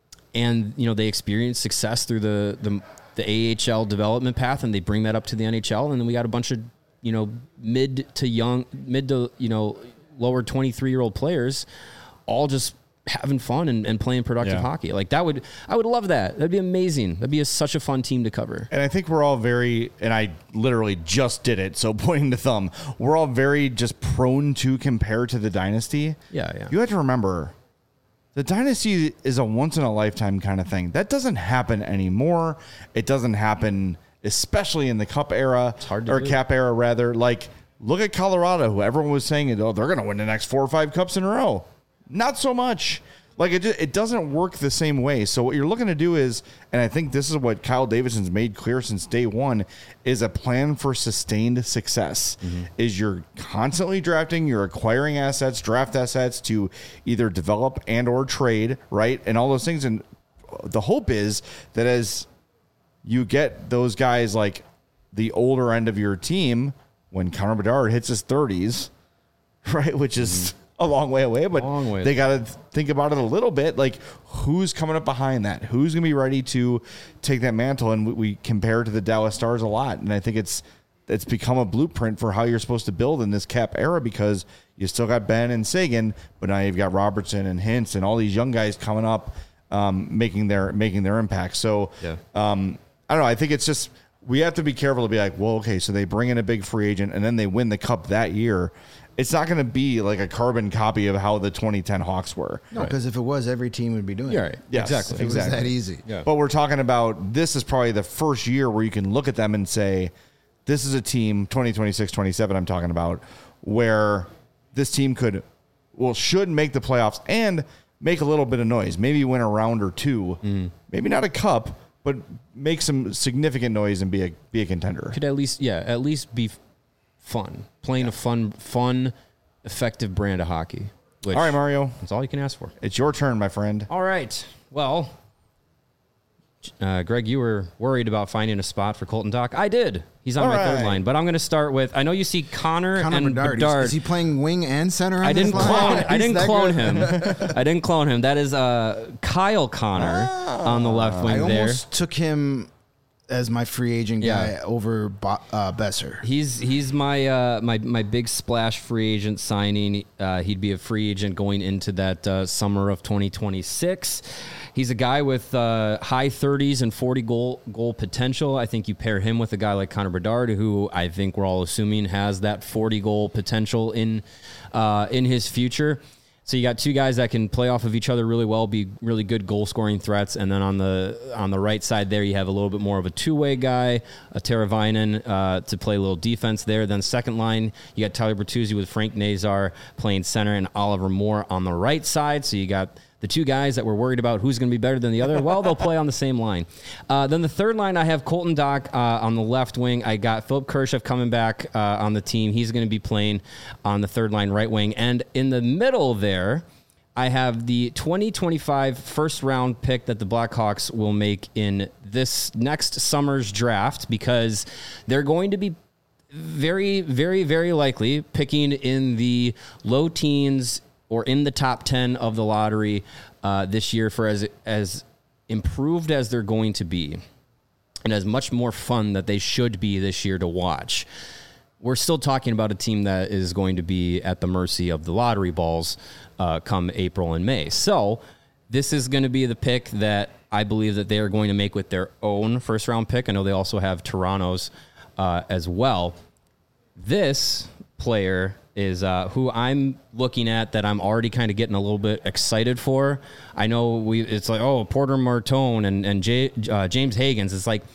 and, you know, they experienced success through the, the, the A H L development path, and they bring that up to the N H L. And then we got a bunch of, you know, mid to young, mid to, you know, lower twenty-three year old players all just having fun and, and playing productive yeah. hockey. Like that would, I would love that. That'd be amazing. That'd be a, such a fun team to cover. And I think we're all very, and I literally just did it, so pointing the thumb, we're all very just prone to compare to the dynasty. Yeah, yeah. You have to remember, the dynasty is a once in a lifetime kind of thing. That doesn't happen anymore. It doesn't happen especially in the cup era, it's hard to or do. cap era rather. Like, look at Colorado, who everyone was saying, oh, they're going to win the next four or five cups in a row. Not so much. Like, it, it doesn't work the same way. So what you're looking to do is, and I think this is what Kyle Davidson's made clear since day one, is a plan for sustained success. Mm-hmm. Is you're constantly drafting, you're acquiring assets, draft assets to either develop and or trade, right? And all those things. And the hope is that as you get those guys like the older end of your team when Connor Bedard hits his thirties, right? Which is mm-hmm. a long way away, but way. they got to think about it a little bit. Like, who's coming up behind that? Who's going to be ready to take that mantle? And we, we compare to the Dallas Stars a lot. And I think it's, it's become a blueprint for how you're supposed to build in this cap era, because you still got Ben and Sagan, but now you've got Robertson and Hintz and all these young guys coming up, um, making their, making their impact. So, yeah. um, I don't know. I think it's just, we have to be careful to be like, well, okay, so they bring in a big free agent and then they win the cup that year. It's not going to be like a carbon copy of how the twenty ten Hawks were. No, because right. if it was, every team would be doing You're it. right. Yes, exactly. If it exactly. was that easy. Yeah. But we're talking about, this is probably the first year where you can look at them and say, this is a team, twenty twenty-six twenty-seven I'm talking about, where this team could, well, should make the playoffs and make a little bit of noise. Maybe win a round or two. Mm. Maybe not a cup, but make some significant noise and be a be a contender. Could at least, yeah, at least be f- fun. Playing yeah. a fun, fun, effective brand of hockey. Which, all right, Mario. That's all you can ask for. It's your turn, my friend. All right. Well, uh, Greg, you were worried about finding a spot for Colton Dach. I did. He's on all my right. third line, but I'm going to start with, I know you see Connor, Connor and Bedard. Bedard. Is, is he playing wing and center on I didn't this clone. line? I didn't He's clone that him. I didn't clone him. That is uh, Kyle Connor Ah. on the left wing I there. almost took him as my free agent guy Yeah. over Bo- uh, Besser. He's he's my uh, my my big splash free agent signing. Uh, he'd be a free agent going into that uh, summer of twenty twenty-six. He's a guy with uh, high thirties and forty goal goal potential. I think you pair him with a guy like Connor Bedard, who I think we're all assuming has that forty goal potential in uh, in his future. So you got two guys that can play off of each other really well, be really good goal scoring threats, and then on the on the right side there, you have a little bit more of a two way guy, a Teravainen uh, to play a little defense there. Then second line, you got Tyler Bertuzzi with Frank Nazar playing center and Oliver Moore on the right side. So you got the two guys that we're worried about who's going to be better than the other. Well, they'll play on the same line. Uh, then the third line, I have Colton Dach uh, on the left wing. I got Philip Kershev coming back uh, on the team. He's going to be playing on the third line right wing. And in the middle there, I have the twenty twenty-five first round pick that the Blackhawks will make in this next summer's draft, because they're going to be very, very, very likely picking in the low teens or in the top ten of the lottery uh, this year, for as as improved as they're going to be and as much more fun that they should be this year to watch. We're still talking about a team that is going to be at the mercy of the lottery balls uh, come April and May. So this is going to be the pick that I believe that they are going to make with their own first round pick. I know they also have Toronto's uh, as well. This player is uh, who I'm looking at that I'm already kind of getting a little bit excited for. I know we it's like, oh, Porter Martone and, and J, uh, James Higgins. It's like,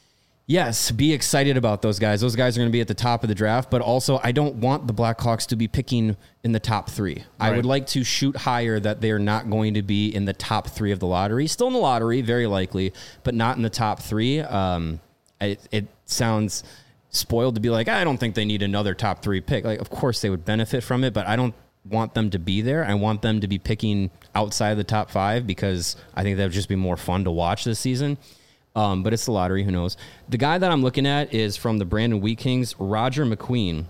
yes, be excited about those guys. Those guys are going to be at the top of the draft, but also I don't want the Blackhawks to be picking in the top three. Right. I would like to shoot higher that they're not going to be in the top three of the lottery. Still in the lottery, very likely, but not in the top three. Um, it, it sounds spoiled to be like, I don't think they need another top three pick. Like, of course they would benefit from it, but I don't want them to be there. I want them to be picking outside of the top five, because I think that would just be more fun to watch this season. Um, but it's the lottery. Who knows? The guy that I'm looking at is from the Brandon Wheat Kings, Roger McQueen.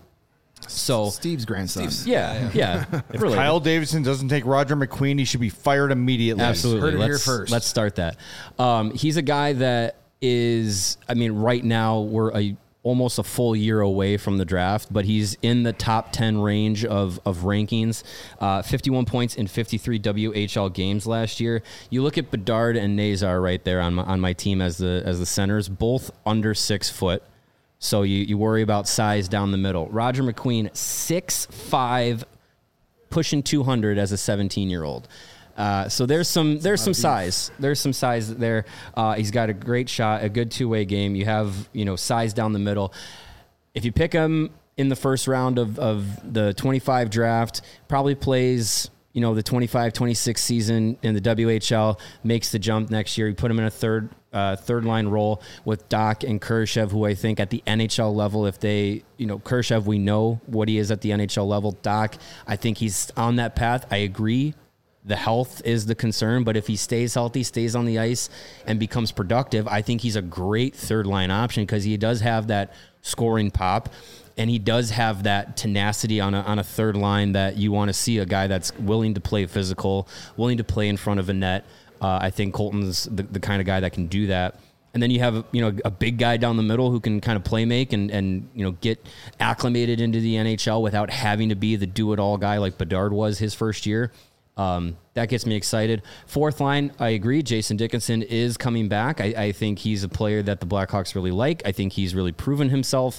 So Steve's grandson. Steve's- yeah, yeah. yeah If really. Kyle Davidson doesn't take Roger McQueen, he should be fired immediately. Absolutely. Heard it here let's, first. Let's start that. Um, he's a guy that is, I mean, right now we're a almost a full year away from the draft, but he's in the top ten range of, of rankings, uh, fifty-one points in fifty-three W H L games last year. You look at Bedard and Nazar right there on my, on my team as the, as the centers, both under six foot. So you, you worry about size down the middle. Roger McQueen, six five, pushing two hundred as a seventeen year old. Uh, so there's some there's some size there's some size there. Uh, he's got a great shot, a good two way game. You have you know size down the middle. If you pick him in the first round of, of the twenty-five draft, probably plays you know the twenty-five twenty-six season in the W H L, makes the jump next year. You put him in a third uh, third line role with Dach and Kershev, who I think at the N H L level, if they you know Kershev, we know what he is at the N H L level. Dach, I think he's on that path. I agree. The health is the concern, but if he stays healthy, stays on the ice, and becomes productive, I think he's a great third line option, because he does have that scoring pop, and he does have that tenacity on a, on a third line that you want to see, a guy that's willing to play physical, willing to play in front of a net. Uh, I think Colton's the, the kind of guy that can do that. And then you have you know a big guy down the middle who can kind of play make and, and you know get acclimated into the N H L without having to be the do-it-all guy like Bedard was his first year. Um, that gets me excited. Fourth line, I agree. Jason Dickinson is coming back. I, I think he's a player that the Blackhawks really like. I think he's really proven himself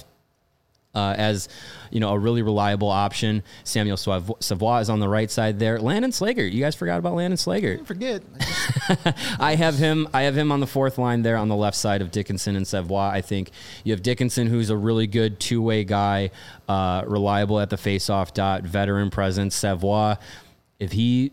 uh, as, you know, a really reliable option. Samuel Savoie is on the right side there. Landon Slager. You guys forgot about Landon Slager. Don't forget. I have him. I have him on the fourth line there on the left side of Dickinson and Savoie. I think you have Dickinson, who's a really good two-way guy, uh, reliable at the face-off dot, veteran presence. Savoie, if he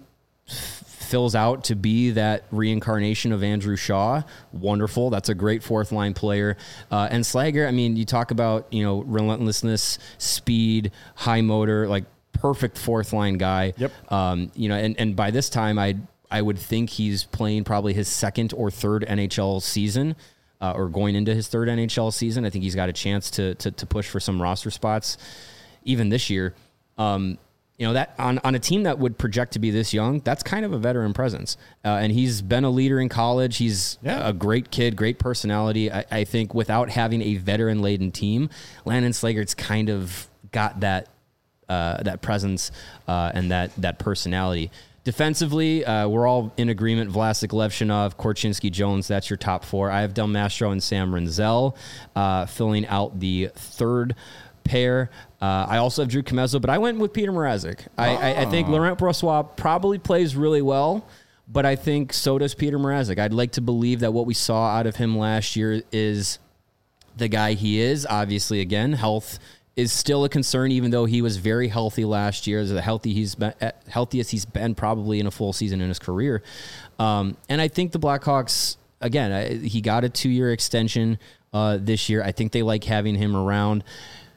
fills out to be that reincarnation of Andrew Shaw, wonderful. That's a great fourth line player. Uh, and Slager, I mean, you talk about, you know, relentlessness, speed, high motor, like perfect fourth line guy. Yep. Um, you know, and, and by this time I, I would think he's playing probably his second or third N H L season, uh, or going into his third N H L season. I think he's got a chance to, to, to push for some roster spots even this year. Um, you know, that on, on a team that would project to be this young, that's kind of a veteran presence. Uh, and he's been a leader in college. He's Yeah. a great kid, great personality. I, I think without having a veteran laden team, Landon Slagert's kind of got that, uh, that presence, uh, and that, that personality. Defensively, uh, we're all in agreement. Vlasic, Levshinov, Korchinski, Jones, that's your top four. I have Del Mastro and Sam Renzel uh, filling out the third pair. Uh, I also have Drew Comezzo, but I went with Peter Mrazek. I, oh. I, I think Laurent Brossoit probably plays really well, but I think so does Peter Mrazek. I'd like to believe that what we saw out of him last year is the guy he is. Obviously, again, health is still a concern, even though he was very healthy last year, as the healthy he's been, healthiest he's been probably in a full season in his career. Um, and I think the Blackhawks, again, I, he got a two-year extension uh, this year. I think they like having him around.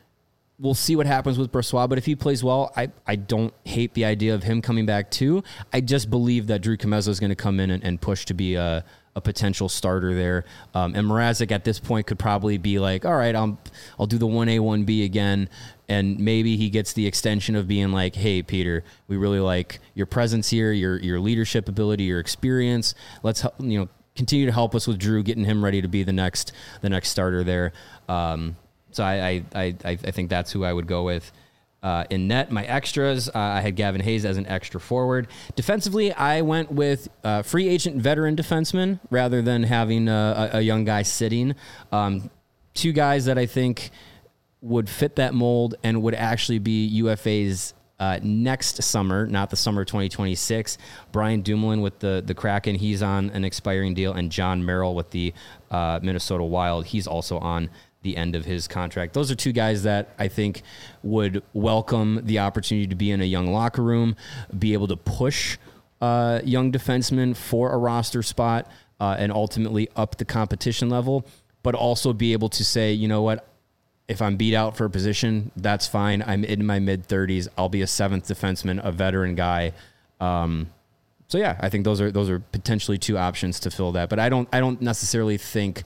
We'll see what happens with Brossoit, but if he plays well, I, I don't hate the idea of him coming back too. I just believe that Drew Comezzo is going to come in and, and push to be a, a potential starter there. Um, and Mrazek at this point could probably be like, all right, I'll, I'll do the one A, one B again. And maybe he gets the extension of being like, hey, Peter, we really like your presence here, your your leadership ability, your experience. Let's, you know, continue to help us with Drew, getting him ready to be the next the next starter there. Um, So I, I I I think that's who I would go with. Uh, in net, my extras, uh, I had Gavin Hayes as an extra forward. Defensively, I went with uh, free agent veteran defenseman rather than having a, a young guy sitting. Um, two guys that I think would fit that mold and would actually be U F As uh, next summer, not the summer of twenty twenty-six. Brian Dumoulin with the, the Kraken, he's on an expiring deal, and John Merrill with the uh, Minnesota Wild, he's also on the end of his contract. Those are two guys that I think would welcome the opportunity to be in a young locker room, be able to push uh, young defensemen for a roster spot, uh, and ultimately up the competition level, but also be able to say, you know what, if I'm beat out for a position, that's fine. I'm in my mid-thirties. I'll be a seventh defenseman, a veteran guy. Um, so yeah, I think those are those are potentially two options to fill that. But I don't I don't necessarily think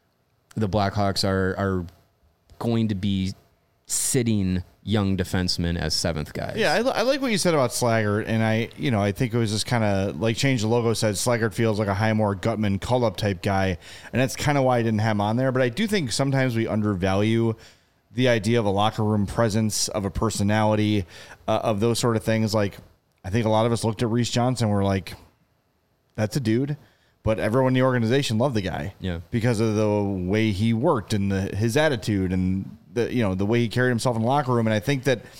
the Blackhawks are are going to be sitting young defensemen as seventh guys. Yeah, I, I like what you said about Slaggert, and I, you know, I think it was just kind of like Change the Logo said, Slaggert feels like a Highmore, Gutman, call-up type guy, and that's kind of why I didn't have him on there. But I do think sometimes we undervalue the idea of a locker room presence, of a personality, uh, of those sort of things. Like, I think a lot of us looked at Reese Johnson and were like, that's a dude. But everyone in the organization loved the guy, yeah, because of the way he worked and the, his attitude and the you know the way he carried himself in the locker room. And I think that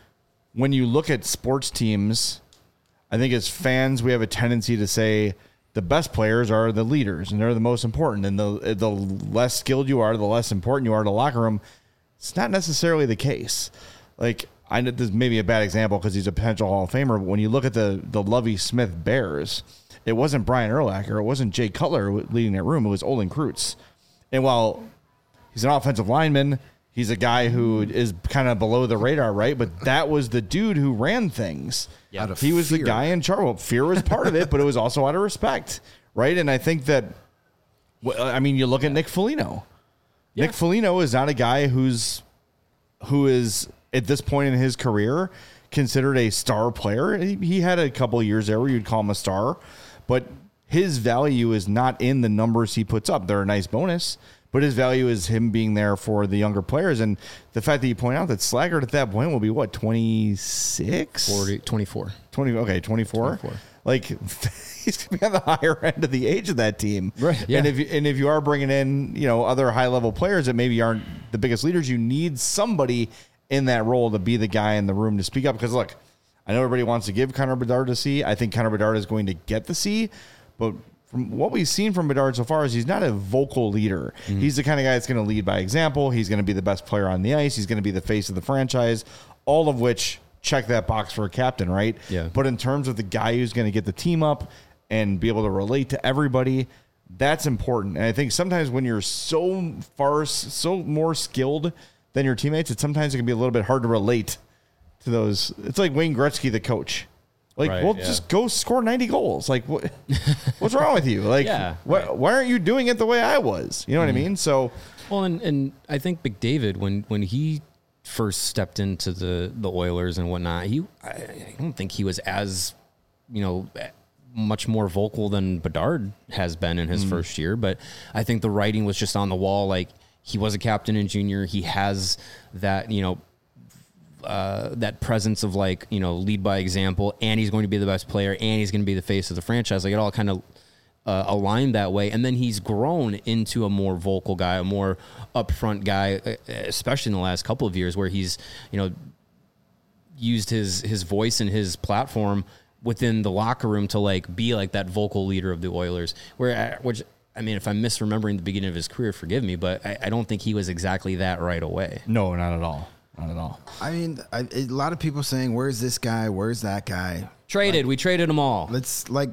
when you look at sports teams, I think as fans we have a tendency to say the best players are the leaders and they're the most important. And the the less skilled you are, the less important you are to the locker room. It's not necessarily the case. Like, I know this may be a bad example because he's a potential Hall of Famer, but when you look at the the Lovie Smith Bears, it wasn't Brian Urlacher. It wasn't Jay Cutler leading that room. It was Olin Kreutz. And while he's an offensive lineman, he's a guy who is kind of below the radar, right? But that was the dude who ran things. Yeah. He was fear. the guy in charge. Well, fear was part of it, but it was also out of respect, right? And I think that, I mean, you look at Nick Foligno. Yeah. Nick Foligno is not a guy who's who is, at this point in his career, considered a star player. He, he had a couple of years there where you'd call him a star. But his value is not in the numbers he puts up. They're a nice bonus, but his value is him being there for the younger players. And the fact that you point out that Slaggert at that point will be, what, twenty-six? forty, twenty-four. twenty, okay, twenty-four? twenty-four. Like, he's going to be on the higher end of the age of that team. Right. Yeah. And if you, and if you are bringing in, you know, other high-level players that maybe aren't the biggest leaders, you need somebody in that role to be the guy in the room to speak up. Because, look, I know everybody wants to give Connor Bedard the C. I think Connor Bedard is going to get the C. But from what we've seen from Bedard so far is he's not a vocal leader. Mm-hmm. He's the kind of guy that's going to lead by example. He's going to be the best player on the ice. He's going to be the face of the franchise, all of which check that box for a captain, right? Yeah. But in terms of the guy who's going to get the team up and be able to relate to everybody, that's important. And I think sometimes when you're so far, so more skilled than your teammates, it sometimes it can be a little bit hard to relate to those. It's like Wayne Gretzky, the coach. Like, right, well, yeah. just go score ninety goals. Like, what? What's wrong with you? Like, yeah, wh- right. why aren't you doing it the way I was? You know mm-hmm. what I mean? So, well, and, and I think McDavid, when when he first stepped into the, the Oilers and whatnot, he I, I don't think he was as, you know, much more vocal than Bedard has been in his mm. first year. But I think the writing was just on the wall. Like, he was a captain in junior. He has that, you know, uh, that presence of, like, you know, lead by example, and he's going to be the best player, and he's going to be the face of the franchise. Like, it all kind of uh, aligned that way. And then he's grown into a more vocal guy, a more upfront guy, especially in the last couple of years, where he's, you know, used his his voice and his platform within the locker room to, like, be like that vocal leader of the Oilers. Where, which, I mean, if I'm misremembering the beginning of his career, forgive me, but I, I don't think he was exactly that right away. No, not at all. Not at all. I mean, I, a lot of people saying, "Where's this guy? Where's that guy?" Traded. Like, we traded them all. Let's like.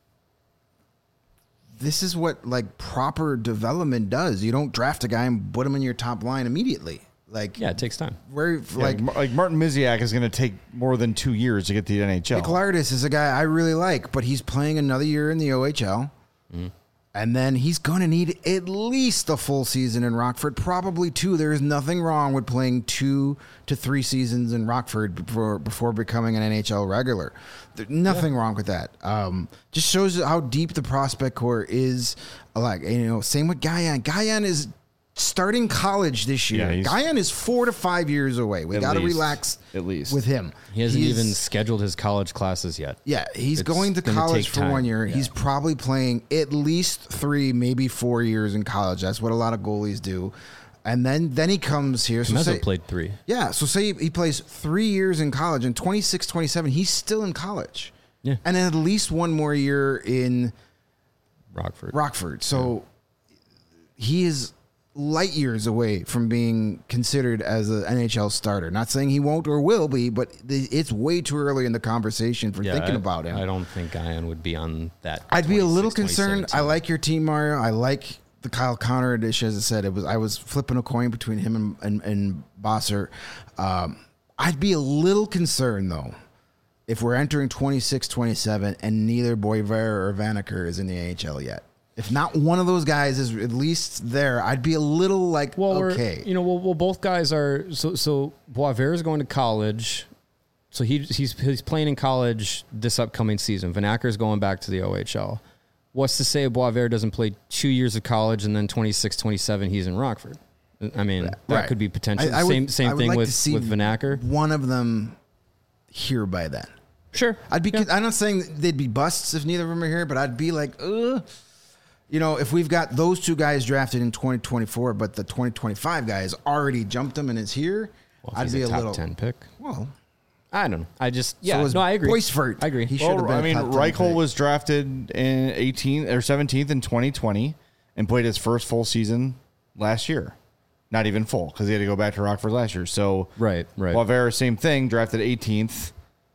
This is what, like, proper development does. You don't draft a guy and put him in your top line immediately. Like, yeah, it takes time. Where yeah, like like Martin Miziak is going to take more than two years to get to the N H L. Nick Lardis is a guy I really like, but he's playing another year in the O H L. Mm. And then he's going to need at least a full season in Rockford, probably two. There is nothing wrong with playing two to three seasons in Rockford before before becoming an N H L regular. There's nothing yeah. wrong with that. Um, just shows how deep the prospect core is. Like, you know, same with Guyan. Guyan is starting college this year. Yeah, Guyan is four to five years away. We got to relax at least with him. He hasn't he's, even scheduled his college classes yet. Yeah, he's it's going to college for time. one year. Yeah. He's probably playing at least three, maybe four years in college. That's what a lot of goalies do. And then, then he comes here. So say, played three. Yeah, so say he plays three years in college, and twenty-six, twenty-seven, he's still in college. Yeah. And at least one more year in Rockford. Rockford. So yeah. he is light years away from being considered as an N H L starter. Not saying he won't or will be, but it's way too early in the conversation for yeah, thinking I, about him. I don't think Guyan would be on that. I'd be a little concerned. I like your team, Mario. I like the Kyle Connor edition. As I said, it was I was flipping a coin between him and and, and Bosser. Um, I'd be a little concerned though if we're entering twenty-six twenty-seven and neither Boisvert or Vanacker is in the N H L yet. If not one of those guys is at least there, I'd be a little like, well, okay. You know, well, well, both guys are, so so Boisvert is going to college. So he, he's he's playing in college this upcoming season. Vanacker is going back to the O H L. What's to say Boisvert doesn't play two years of college and then twenty-six twenty-seven he's in Rockford? I mean, that right. could be potential. I, I same would, same thing like with, with Vanacker. One of them here by then. Sure. I'd be. Yeah. I'm not saying they'd be busts if neither of them are here, but I'd be like, ugh. You know, if we've got those two guys drafted in twenty twenty-four, but the twenty twenty-five guy has already jumped them and is here, well, I'd be a, a top little ten pick. Well, I don't know. I just yeah. So no, I agree. Boisvert, I agree. He should have well, been. I mean, Reichel was drafted in eighteenth or seventeenth in twenty twenty and played his first full season last year. Not even full because he had to go back to Rockford last year. So right, right. Boisvert, same thing, drafted eighteenth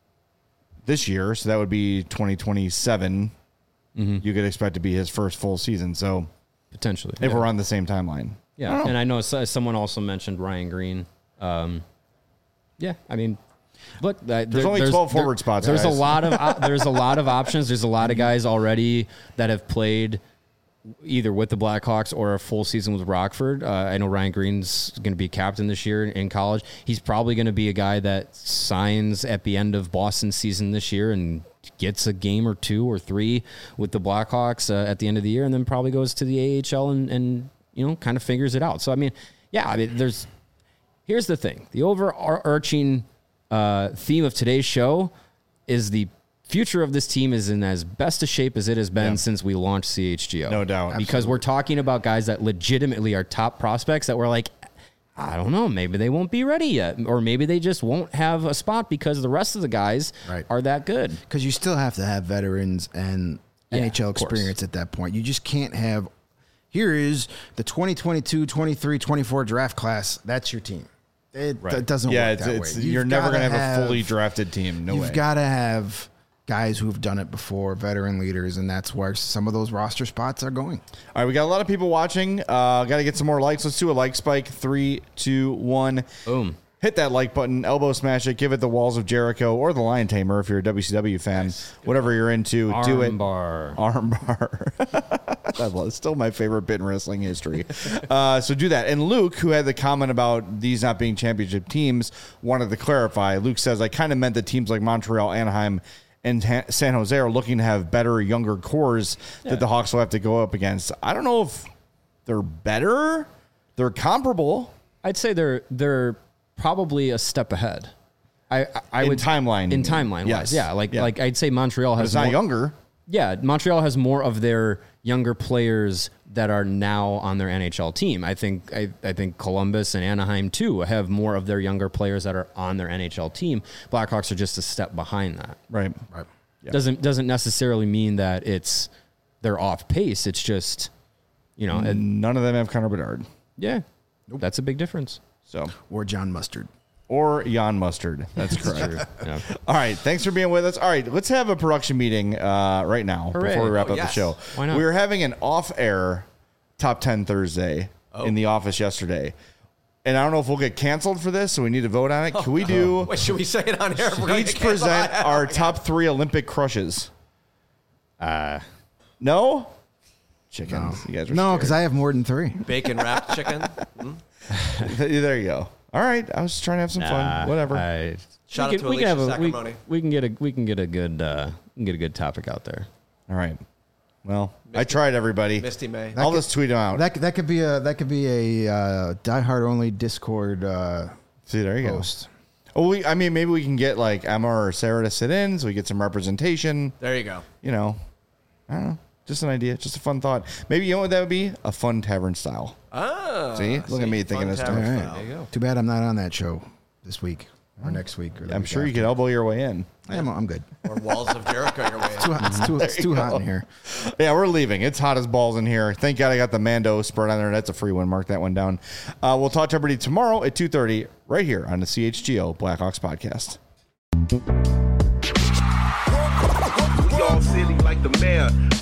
this year, so that would be twenty twenty-seven. Mm-hmm. You could expect to be his first full season. So potentially, if yeah. we're on the same timeline. Yeah, I and I know someone also mentioned Ryan Green. Um, yeah, I mean, look, uh, there's there, only there's, twelve there, forward spots. There's guys. a lot of uh, there's a lot of options. There's a lot of guys already that have played either with the Blackhawks or a full season with Rockford. Uh, I know Ryan Green's going to be captain this year in college. He's probably going to be a guy that signs at the end of Boston's season this year and gets a game or two or three with the Blackhawks uh, at the end of the year, and then probably goes to the A H L and, and you know kind of figures it out. So I mean, yeah, I mean, there's here's the thing: the overarching uh, theme of today's show is the future of this team is in as best a shape as it has been yeah. since we launched C H G O. No doubt. Because Absolutely. we're talking about guys that legitimately are top prospects that we're like, I don't know, maybe they won't be ready yet. Or maybe they just won't have a spot because the rest of the guys right. are that good. Because you still have to have veterans and yeah, N H L experience at that point. You just can't have, here is the twenty twenty-two, twenty-three, twenty-four draft class. That's your team. It, right. it doesn't yeah, work it's, that it's, way. You're You've never going to have, have a fully drafted team. No you've way. You've got to have guys who've done it before, veteran leaders, and that's where some of those roster spots are going. All right, we got a lot of people watching. Uh, got to get some more likes. Let's do a like spike. Three, two, one. Boom. Hit that like button, elbow smash it, give it the Walls of Jericho or the Lion Tamer if you're a W C W fan. Nice. Whatever you're into, Arm do it. Bar. Arm bar. I love, it's still my favorite bit in wrestling history. Uh, so do that. And Luke, who had the comment about these not being championship teams, wanted to clarify. Luke says, I kind of meant that teams like Montreal, Anaheim, and ha- San Jose are looking to have better, younger cores yeah. that the Hawks will have to go up against. I don't know if they're better. They're comparable. I'd say they're they're probably a step ahead. I, I in would timeline in timeline yes. wise, yeah. Like yeah. like I'd say Montreal has but it's not more, younger. Yeah, Montreal has more of their younger players that are now on their N H L team. I think I, I think Columbus and Anaheim too have more of their younger players that are on their N H L team. Blackhawks are just a step behind that. Right. Right. Yeah. Doesn't doesn't necessarily mean that it's they're off pace. It's just you know none of them have Connor Bedard. Yeah, nope. That's a big difference. So or John Mustard. Or Jan Mustard. That's correct. Yeah. All right. Thanks for being with us. All right. Let's have a production meeting uh, right now Hooray. before we wrap oh, up yes. the show. Why not? We were having an off-air top ten Thursday oh. in the office yesterday. And I don't know if we'll get canceled for this, so we need to vote on it. Can we do... Wait, should we say it on air? Each present our top three Olympic crushes. Uh, no? Chickens. No, you guys are no, because I have more than three. Bacon wrapped chicken. Hmm? There you go. All right, I was just trying to have some nah, fun. Whatever. I, Shout we out can, to we can Alicia have a, we, Sacramone. we can get a we can get a good uh, we can get a good topic out there. All right. Well, Misty, I tried, everybody. Misty May. I'll could, just tweet them out. That that could be a that could be a uh, Die Hard only Discord. Uh, See, there you post. go. Oh, we. I mean, maybe we can get like Emma or Sarah to sit in, so we get some representation. There you go. You know, I don't know. Just an idea. Just a fun thought. Maybe you know what that would be? A fun tavern style. Ah, see, look see, at me thinking this stuff. All right. There you go. Too bad I'm not on that show this week or next week. Or the I'm week sure you after. could elbow your way in. I'm, I'm good. Or Walls of Jericho your way. It's too, hot- it's too, it's too hot in here. Yeah, we're leaving. It's hot as balls in here. Thank God I got the Mando spread on there. That's a free one. Mark that one down. Uh, we'll talk to everybody tomorrow at two thirty right here on the C H G O Blackhawks podcast. We all silly like the mayor.